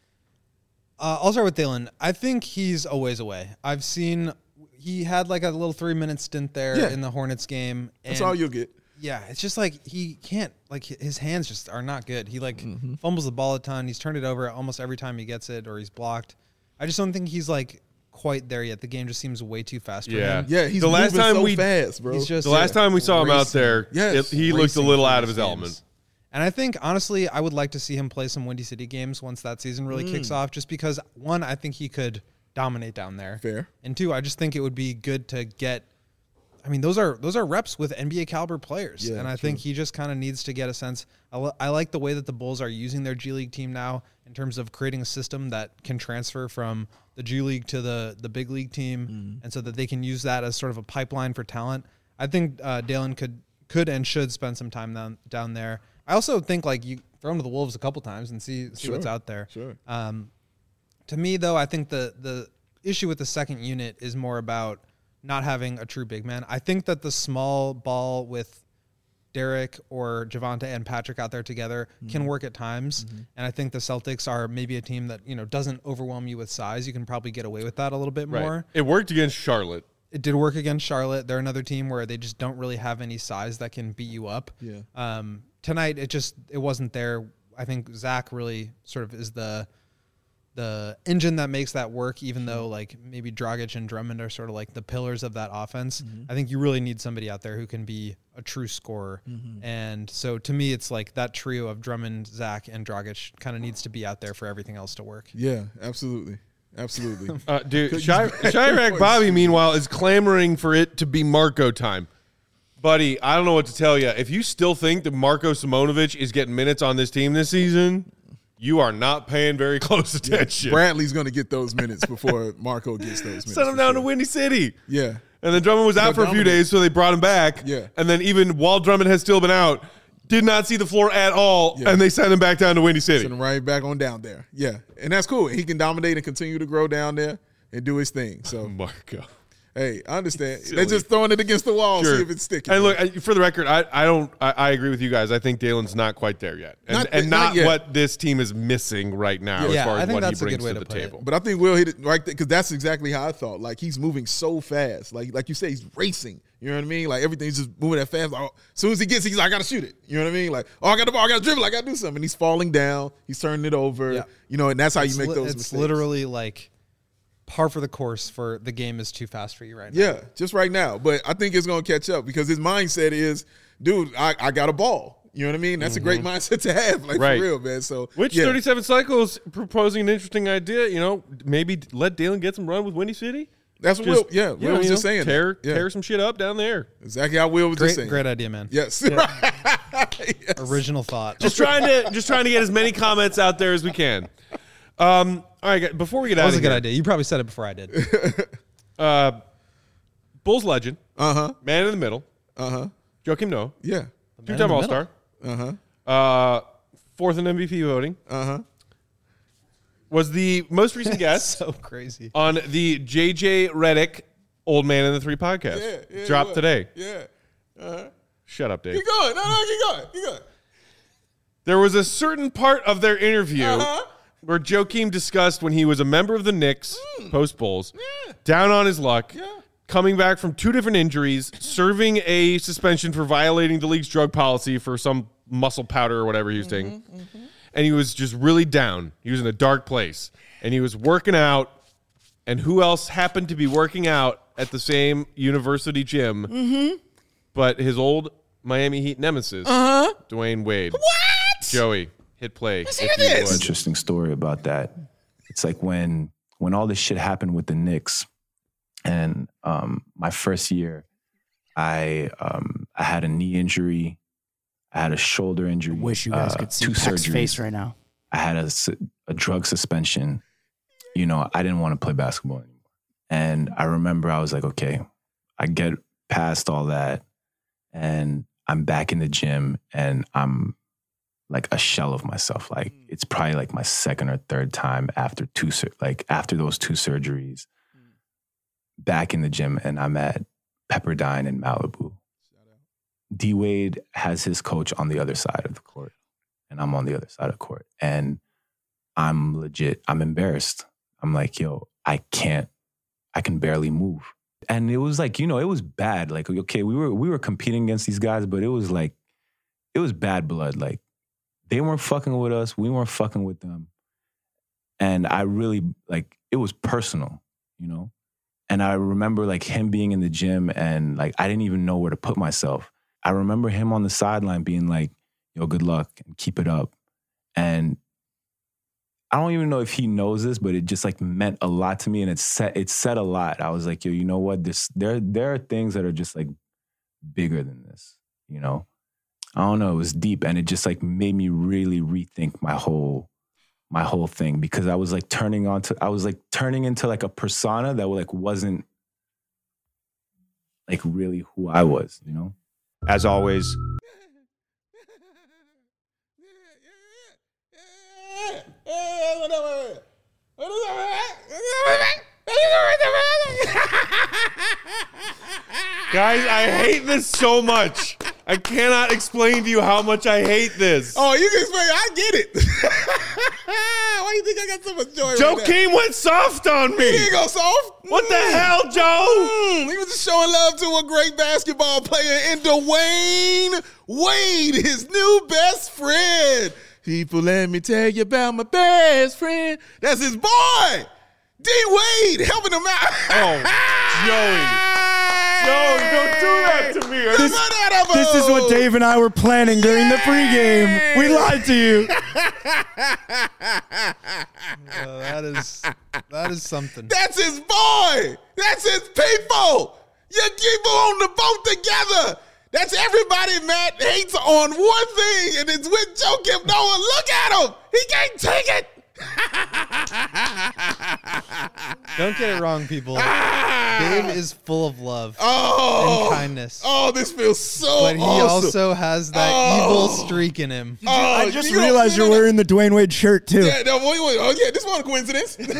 I'll start with Dalen. I think he's a ways away. I've seen he had like a little 3-minute stint there in the Hornets game. That's all you'll get. Yeah, it's just like he can't, like his hands just are not good. He like fumbles the ball a ton. He's turned it over almost every time he gets it or he's blocked. I just don't think he's like quite there yet. The game just seems way too fast for him. Yeah, he's moving so fast, bro. He's just, the last time we saw him out there, he looked a little out of his element. And I think, honestly, I would like to see him play some Windy City games once that season really kicks off, just because, one, I think he could dominate down there. Fair. And two, I just think it would be good to get, I mean, those are reps with NBA caliber players. Yeah, and I think he just kind of needs to get a sense. I like the way that the Bulls are using their G League team now in terms of creating a system that can transfer from the G League to the big league team, and so that they can use that as sort of a pipeline for talent. I think Dalen could and should spend some time down there. I also think like you throw him to the Wolves a couple times and see what's out there. Sure. To me, though, I think the issue with the second unit is more about not having a true big man. I think that the small ball with Derek or Javonte and Patrick out there together can work at times. And I think the Celtics are maybe a team that, you know, doesn't overwhelm you with size. You can probably get away with that a little bit more. It worked against Charlotte. It did work against Charlotte. They're another team where they just don't really have any size that can beat you up. Yeah. Tonight, it wasn't there. I think Zach really sort of is the engine that makes that work, even though like maybe Dragic and Drummond are sort of like the pillars of that offense. I think you really need somebody out there who can be a true scorer. And so to me, it's like that trio of Drummond, Zach, and Dragic kind of needs to be out there for everything else to work. Yeah, absolutely. Absolutely. Dude, Chirac Bobby, meanwhile, is clamoring for it to be Marco time. Buddy, I don't know what to tell you. If you still think that Marko Simonovic is getting minutes on this team this season, you are not paying very close attention. Bradley's going to get those minutes before Marco gets those minutes. Send him down to Windy City. Yeah. And then Drummond was out for a few days, so they brought him back. Yeah. And then even while Drummond has still been out, did not see the floor at all, and they sent him back down to Windy City. Send him right back on down there. Yeah. And that's cool. He can dominate and continue to grow down there and do his thing. So Marco. Hey, I understand. They're just throwing it against the wall, see if it's sticking. And look, for the record, I agree with you guys. I think Dalen's not quite there yet, not what this team is missing right now as far as what he brings to the table. But I think Will hit it right there because that's exactly how I thought. Like he's moving so fast, like you say, he's racing. You know what I mean? Like everything's just moving that fast. Like, as soon as he gets, he's like, I gotta shoot it. You know what I mean? Like, I got the ball, I gotta dribble, I gotta do something. And he's falling down, he's turning it over. Yeah. You know, and that's how you make those mistakes. It's literally like par for the course for the game is too fast for you right now. Yeah, just right now. But I think it's going to catch up because his mindset is, dude, I got a ball. You know what I mean? That's a great mindset to have, like for real, man. So, 37 Cycles proposing an interesting idea. You know, maybe let Dalen get some run with Windy City. That's what Will. Yeah, Will was just saying. Tear some shit up down there. Exactly how Will was just saying. Great idea, man. Yes. Yes. Original thought. Just trying to get as many comments out there as we can. All right, before we get out of here. That was a good idea. You probably said it before I did. Bulls legend. Man in the middle. Joakim Noah. Yeah. Two-time All-Star. Fourth in MVP voting. Was the most recent guest. So crazy. On the JJ Redick Old Man in the Three podcast. Yeah, dropped today. Yeah. Shut up, Dave. Keep going. No, keep going. There was a certain part of their interview where Joakim discussed when he was a member of the Knicks, post-Bulls, down on his luck, coming back from 2 different injuries, serving a suspension for violating the league's drug policy for some muscle powder or whatever he was taking. And he was just really down. He was in a dark place. And he was working out. And who else happened to be working out at the same university gym but his old Miami Heat nemesis, Dwayne Wade. What? Joey, hit play. Interesting story about that. It's like when all this shit happened with the Knicks, and my first year, I had a knee injury, I had a shoulder injury. Wish you guys could see 2 Peck's surgeries. face right now. I had a drug suspension. You know, I didn't want to play basketball anymore, and I remember I was like, okay, I get past all that, and I'm back in the gym, and I'm like a shell of myself. Like it's probably like my second or third time after those 2 surgeries, back in the gym, and I'm at Pepperdine in Malibu. D Wade has his coach on the other side of the court, and I'm on the other side of the court, and I'm embarrassed. I'm like, yo, I can barely move. And it was like, you know, it was bad. Like, okay, we were competing against these guys, but it was bad blood. Like, they weren't fucking with us. We weren't fucking with them. And I really, like, it was personal, you know? And I remember, like, him being in the gym and, like, I didn't even know where to put myself. I remember him on the sideline being like, yo, good luck and keep it up. And I don't even know if he knows this, but it just, like, meant a lot to me. And it said a lot. I was like, yo, you know what? There are things that are just, like, bigger than this, you know? I don't know. It was deep, and it just like made me really rethink my whole thing, because I was like turning into like a persona that like wasn't like really who I was, you know? As always, guys, I hate this so much. I cannot explain to you how much I hate this. Oh, you can explain. I get it. Why do you think I got so much joy? Joakim went soft on me. He didn't go soft. What the hell, Joe? He was just showing love to a great basketball player in Dwayne Wade, his new best friend. People, let me tell you about my best friend. That's his boy, D Wade, helping him out. Oh, Joey. No, don't do that to me. This is what Dave and I were planning during the pregame. We lied to you. That is something. That's his boy. That's his people. You keep them on the boat together. That's everybody, Matt, hates on one thing, and it's with Joakim Noah. Look at him. He can't take it. Don't get it wrong, people. Dave is full of love and kindness. Oh, this feels so But he awesome. also has that evil streak in him. I just realized you're wearing the Dwayne Wade shirt too. Yeah, no, wait. Oh, yeah, this wasn't a coincidence. No.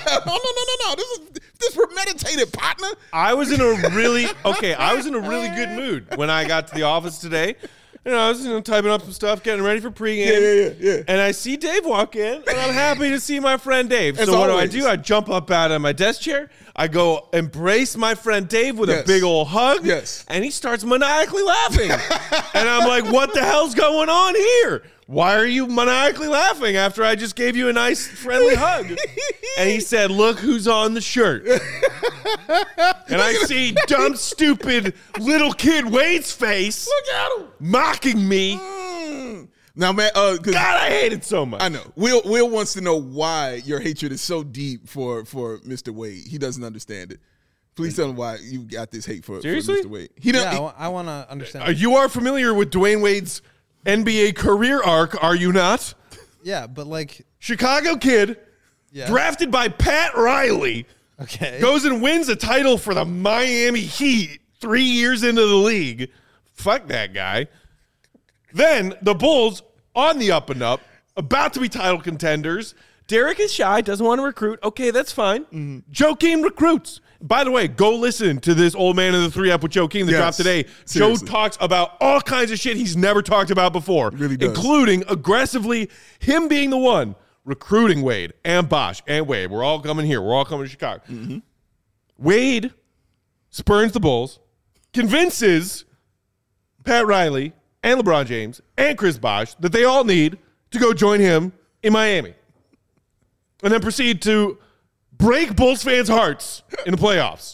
This premeditated, partner. I was in a really good mood when I got to the office today. I was typing up some stuff, getting ready for pregame. Yeah. And I see Dave walk in, and I'm happy to see my friend Dave. As so what always. do? I jump up out of my desk chair. I go embrace my friend Dave with Yes. a big old hug. Yes. And he starts maniacally laughing. And I'm like, what the hell's going on here? Why are you maniacally laughing after I just gave you a nice friendly hug? And he said, look who's on the shirt. And I see dumb, stupid little kid Wade's face. Look at him. Mocking me. Now, man, God, I hate it so much. I know. Will wants to know why your hatred is so deep for Mr. Wade. He doesn't understand it. Please tell him why you got this hate for Seriously? Mr. Wade. I want to understand. You are familiar with Dwayne Wade's NBA career arc, are you not? Yeah, but like, Chicago kid, yeah. drafted by Pat Riley, Okay. goes and wins a title for the Miami Heat 3 years into the league. Fuck that guy. Then the Bulls on the up and up, about to be title contenders. Derek is shy, doesn't want to recruit. Okay, that's fine. Joakim recruits. By the way, go listen to this old man in the 3-up with Joakim that dropped today. Seriously. Joe talks about all kinds of shit he's never talked about before, Really does. including aggressively him being the one recruiting Wade and Bosh and Wade. We're all coming here. We're all coming to Chicago. Wade spurns the Bulls, convinces Pat Riley and LeBron James and Chris Bosh that they all need to go join him in Miami. And then proceed to break Bulls fans' hearts in the playoffs.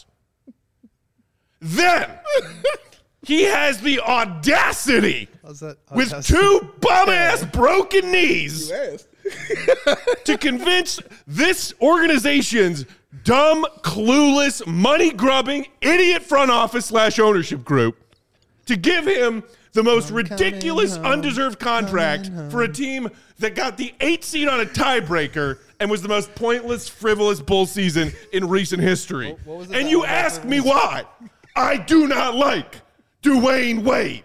Then he has the audacity How's that? with two bum-ass broken knees Yes. to convince this organization's dumb, clueless, money-grubbing, idiot front office / ownership group to give him the most ridiculous, undeserved contract for a team that got the 8th seed on a tiebreaker and was the most pointless, frivolous Bull season in recent history. What was it And that you all ask about me why I do not like Dwayne Wade.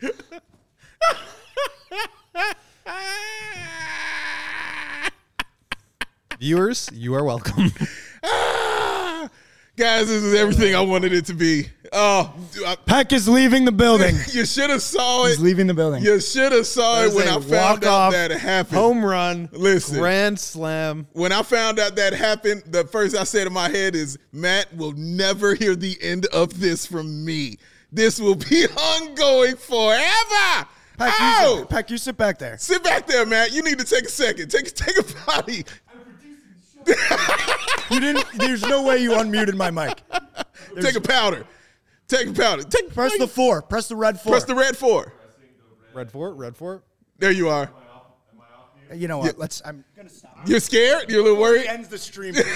Viewers, you are welcome. Guys, this is everything I wanted it to be. Oh, Peck is leaving the building. you should have saw He's it. leaving the building. You should have saw it when I found out that it happened. Home run. Listen. Grand slam. When I found out that happened, the first I said in my head is, Matt will never hear the end of this from me. This will be ongoing forever. Peck, you sit back there. Sit back there, Matt. You need to take a second. Take a potty. You didn't. There's no way you unmuted my mic. Take a powder. Take a powder. Press the 4. Press the red 4. Press the red 4. Red fort. There you are. You know what? I'm gonna stop. You're scared? You're a little worried? Ends the stream. You're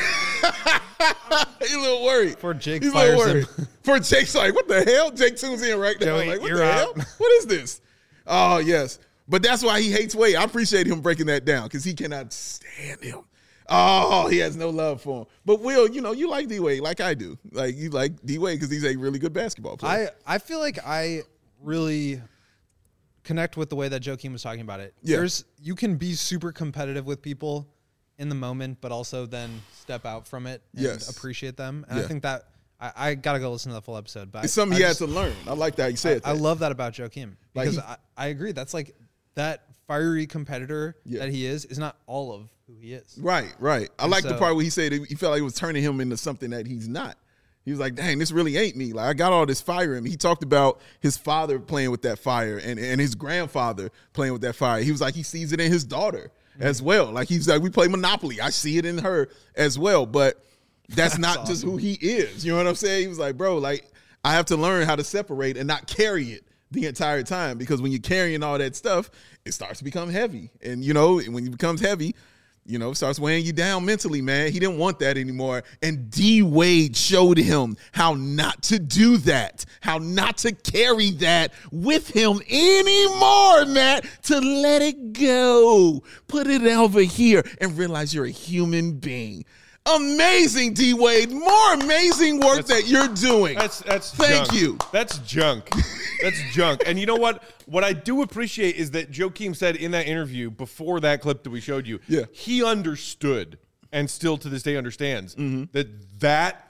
a little worried. Before Jake He's a little fires him. worried. For Jake's like, what the hell? Jake tunes in right now. Joey, Like, what you're the out. hell? What is this? Oh, yes. But that's why he hates Wade. I appreciate him breaking that down because he cannot stand him. Oh, he has no love for him. But Will, you like D-Wade like I do. Like, you like D-Wade because he's a really good basketball player. I feel like I really connect with the way that Joakim was talking about it. Yeah. You can be super competitive with people in the moment, but also then step out from it and Yes. appreciate them. And Yeah. I think that I gotta go listen to the full episode. But It's something he had to learn. I like that you said I that. love that about Joakim Like because I agree. That's like that fiery competitor Yeah. that he is not all of who he is. Right. I like the so- part where he said he felt like it was turning him into something that he's not. He was like, dang, this really ain't me. Like, I got all this fire in me. He talked about his father playing with that fire and his grandfather playing with that fire. He was like, he sees it in his daughter as well. Like, he's like, we play Monopoly. I see it in her as well. But that's not just who he is. You know what I'm saying? He was like, bro, like, I have to learn how to separate and not carry it the entire time, because when you're carrying all that stuff, it starts to become heavy. And, when it becomes heavy, starts weighing you down mentally, man. He didn't want that anymore. And D-Wade showed him how not to do that, how not to carry that with him anymore, Matt, to let it go. Put it over here and realize you're a human being. Amazing, D-Wade. More amazing work that you're doing. Thank junk. you. That's junk. That's junk. And you know what? What I do appreciate is that Joakim said in that interview before that clip that we showed you, he understood and still to this day understands that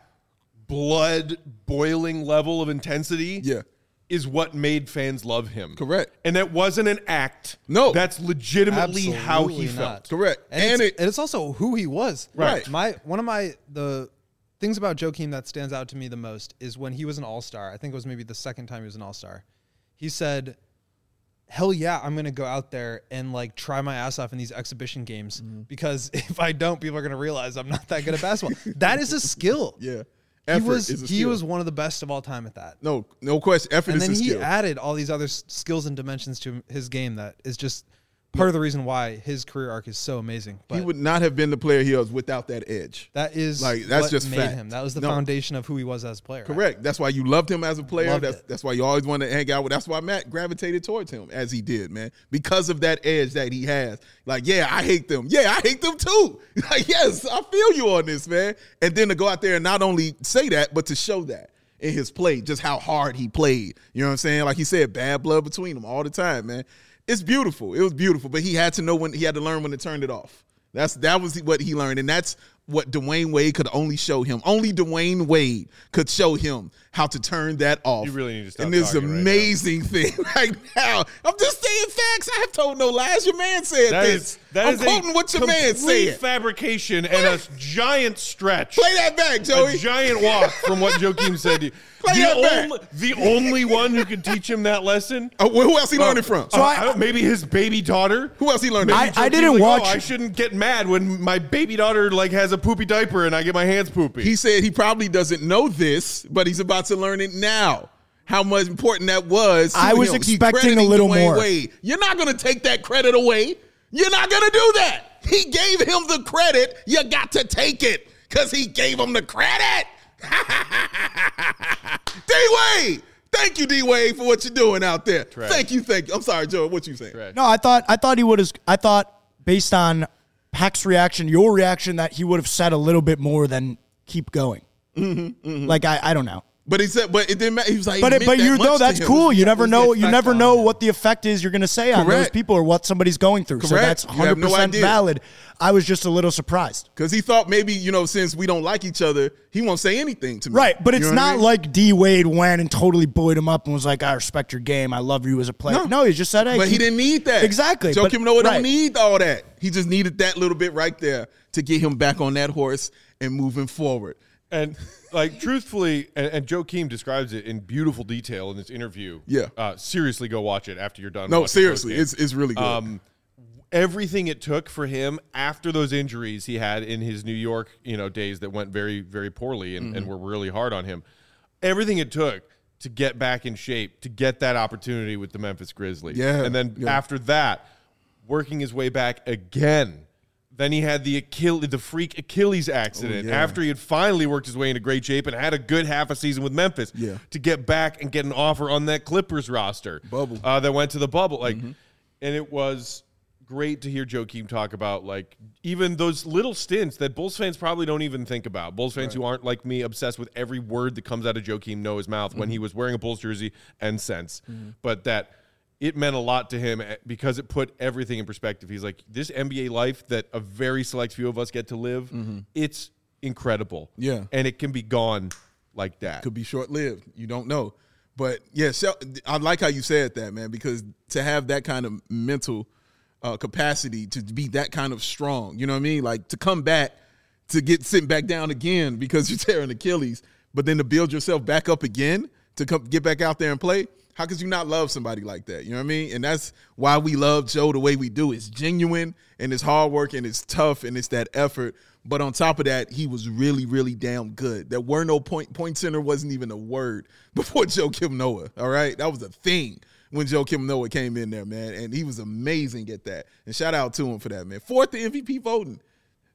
blood boiling level of intensity is what made fans love him. Correct. And that wasn't an act. No. That's legitimately how he felt. Correct. And it's also who he was. Right. The things about Joakim that stands out to me the most is when he was an all-star. I think it was maybe the second time he was an all-star. He said, hell yeah, I'm going to go out there and like try my ass off in these exhibition games because if I don't, people are going to realize I'm not that good at basketball. That is a skill. Yeah. He was one of the best of all time at that. No question. Effort is a skill. And then he added all these other skills and dimensions to his game that is just part of the reason why his career arc is so amazing. But he would not have been the player he was without that edge. That is that's what just made fact. him. That was the foundation of who he was as a player. Correct. That's why you loved him as a player. Loved That's why you always wanted to hang out with. That's why Matt gravitated towards him as he did, man, because of that edge that he has. Like, yeah, I hate them. Yeah, I hate them too. Like, yes, I feel you on this, man. And then to go out there and not only say that, but to show that in his play, just how hard he played. You know what I'm saying? Like he said, bad blood between them all the time, man. It's beautiful. It was beautiful, but he had to know when he had to learn when to turn it off. That was what he learned, and that's what Dwayne Wade could only show him. Only Dwayne Wade could show him how to turn that off. You really need to stop and this talking amazing thing right now. I'm just saying facts. I have told no lies. Your man said this. I'm quoting what your man said. Fabrication and a giant stretch. Play that back, Joey. A giant walk from what Joakim said to you. The only one who could teach him that lesson. Who else he learned it from? Maybe his baby daughter. Who else he learned it from? I didn't watch. I shouldn't get mad when my baby daughter has a poopy diaper and I get my hands poopy. He said he probably doesn't know this, but he's about to learn it now. How much important that was. I was expecting a little more. Wade. You're not going to take that credit away. You're not going to do that. He gave him the credit. You got to take it because he gave him the credit. D-Wade. Thank you, D-Wade, for what you're doing out there. Trash. Thank you. I'm sorry, Joe. What you saying? No, I thought he would have. I thought based on Pac's reaction, your reaction, that he would have said a little bit more than keep going. Like I don't know. But he said, but it didn't matter. He was like, but you know that's cool. You never know. You never know what the effect is you're going to say on those people or what somebody's going through. Correct. So that's 100% valid. I was just a little surprised because he thought maybe since we don't like each other, he won't say anything to me. Right, but it's not like D-Wade went and totally buoyed him up and was like, "I respect your game. I love you as a player." No, he just said, "Hey." But he didn't need that. Exactly. Joakim Noah don't need all that. He just needed that little bit right there to get him back on that horse and moving forward. And truthfully, and Joakim describes it in beautiful detail in this interview. Yeah. Seriously, go watch it after you're done. No, seriously, it's really good. Everything it took for him after those injuries he had in his New York, days that went very, very poorly and were really hard on him. Everything it took to get back in shape, to get that opportunity with the Memphis Grizzlies. Yeah. And then after that, working his way back again. Then he had the freak Achilles accident after he had finally worked his way into great shape and had a good half a season with Memphis to get back and get an offer on that Clippers roster that went to the bubble. And it was great to hear Joakim talk about even those little stints that Bulls fans probably don't even think about. Bulls fans who aren't like me obsessed with every word that comes out of Joakim Noah's mouth when he was wearing a Bulls jersey and since. But that it meant a lot to him because it put everything in perspective. He's like, this NBA life that a very select few of us get to live, it's incredible. Yeah. And it can be gone like that. Could be short-lived. You don't know. But, yeah, I like how you said that, man, because to have that kind of mental capacity to be that kind of strong, you know what I mean? Like to come back, to get sitting back down again because you're tearing Achilles, but then to build yourself back up again, to get back out there and play. How could you not love somebody like that? You know what I mean? And that's why we love Joe the way we do. It's genuine, and it's hard work, and it's tough, and it's that effort. But on top of that, he was really, really damn good. There were no point center wasn't even a word before Joakim Noah, all right? That was a thing when Joakim Noah came in there, man, and he was amazing at that. And shout out to him for that, man. 4th in MVP voting.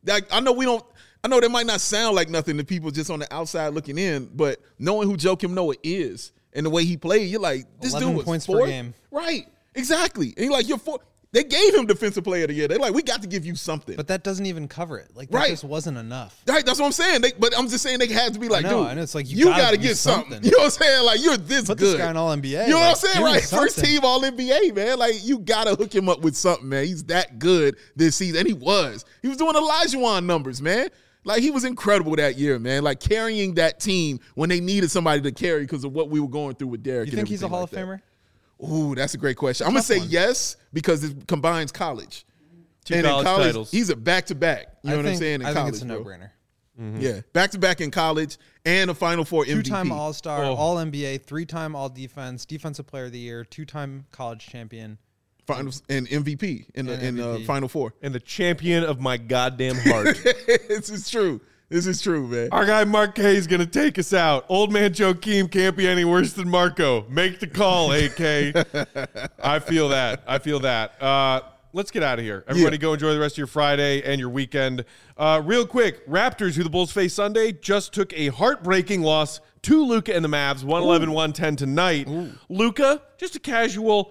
I know that might not sound like nothing to people just on the outside looking in, but knowing who Joakim Noah is and the way he played, you're like, this 11 dude was points fourth. per game. Right. Exactly. And you're like, you're fourth. They gave him Defensive Player of the Year. They're like, we got to give you something. But that doesn't even cover it. Like, that just wasn't enough. Right, that's what I'm saying. But I'm just saying they had to be like, I know, dude, it's like you got to get something. You know what I'm saying? Like, you're this Put good. this guy in All-NBA. You know what I'm saying? give him Right. First something. team All-NBA, man. Like, you got to hook him up with something, man. He's that good this season. And he was. He was doing Olajuwon numbers, man. Like, he was incredible that year, man. Like, carrying that team when they needed somebody to carry because of what we were going through with Derek. You think he's a Hall of Famer? Ooh, that's a great question. I'm going to say yes because it combines college. Two college titles. He's a back-to-back. You know what I'm saying? In I college, think it's a bro. no-brainer. Mm-hmm. Yeah, back-to-back in college and a Final Four MVP. Two-time All-Star, All-NBA, 3-time All-Defense, Defensive Player of the Year, 2-time college champion. Finals and MVP in the Final Four. And the champion of my goddamn heart. This is true. This is true, man. Our guy Mark K is going to take us out. Old man Joakim can't be any worse than Marco. Make the call, AK. I feel that. Let's get out of here. Everybody go enjoy the rest of your Friday and your weekend. Real quick, Raptors, who the Bulls face Sunday, just took a heartbreaking loss to Luka and the Mavs, 111-110 tonight. Luka, just a casual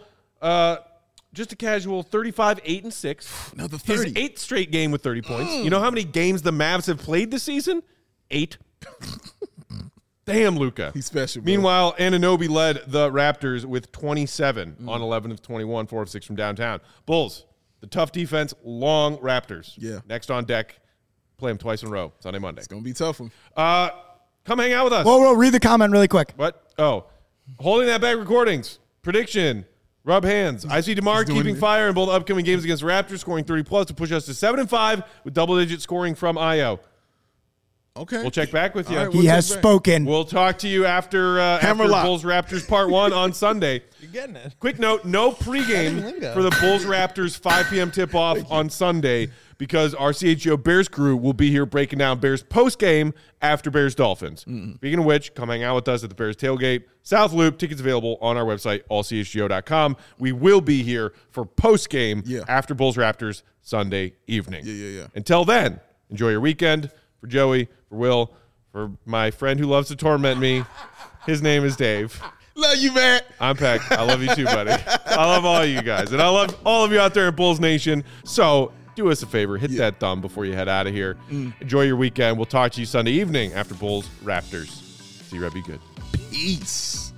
35, 8, and 6. Another 30. His 8th straight game with 30 points. You know how many games the Mavs have played this season? 8. Damn, Luka. He's special, bro. Meanwhile, Anunoby led the Raptors with 27 on 11 of 21, 4 of 6 from downtown. Bulls, the tough defense, long Raptors. Yeah. Next on deck, play them twice in a row, Sunday, Monday. It's going to be a tough one. Come hang out with us. Whoa, read the comment really quick. What? Oh, Holding That Back Recordings. Prediction. Rub hands. I see DeMar keeping fire in both upcoming games against the Raptors, scoring 30+ to push us to 7-5 with double-digit scoring from Io. Okay. We'll check back with you. All right, He has spoken. We'll talk to you after Bulls Raptors Part 1 on Sunday. You're getting it. Quick note, no pregame for the Bulls Raptors 5 p.m. tip-off on Sunday because our CHGO Bears crew will be here breaking down Bears postgame after Bears Dolphins. Speaking of which, come hang out with us at the Bears Tailgate. South Loop, tickets available on our website, allchgo.com. We will be here for postgame after Bulls Raptors Sunday evening. Yeah. Until then, enjoy your weekend. For Joey, for Will, for my friend who loves to torment me, his name is Dave. Love you, man. I'm Peck. I love you too, buddy. I love all you guys. And I love all of you out there in Bulls Nation. So do us a favor. Hit that thumb before you head out of here. Enjoy your weekend. We'll talk to you Sunday evening after Bulls Raptors. See you, Red. Be good. Peace.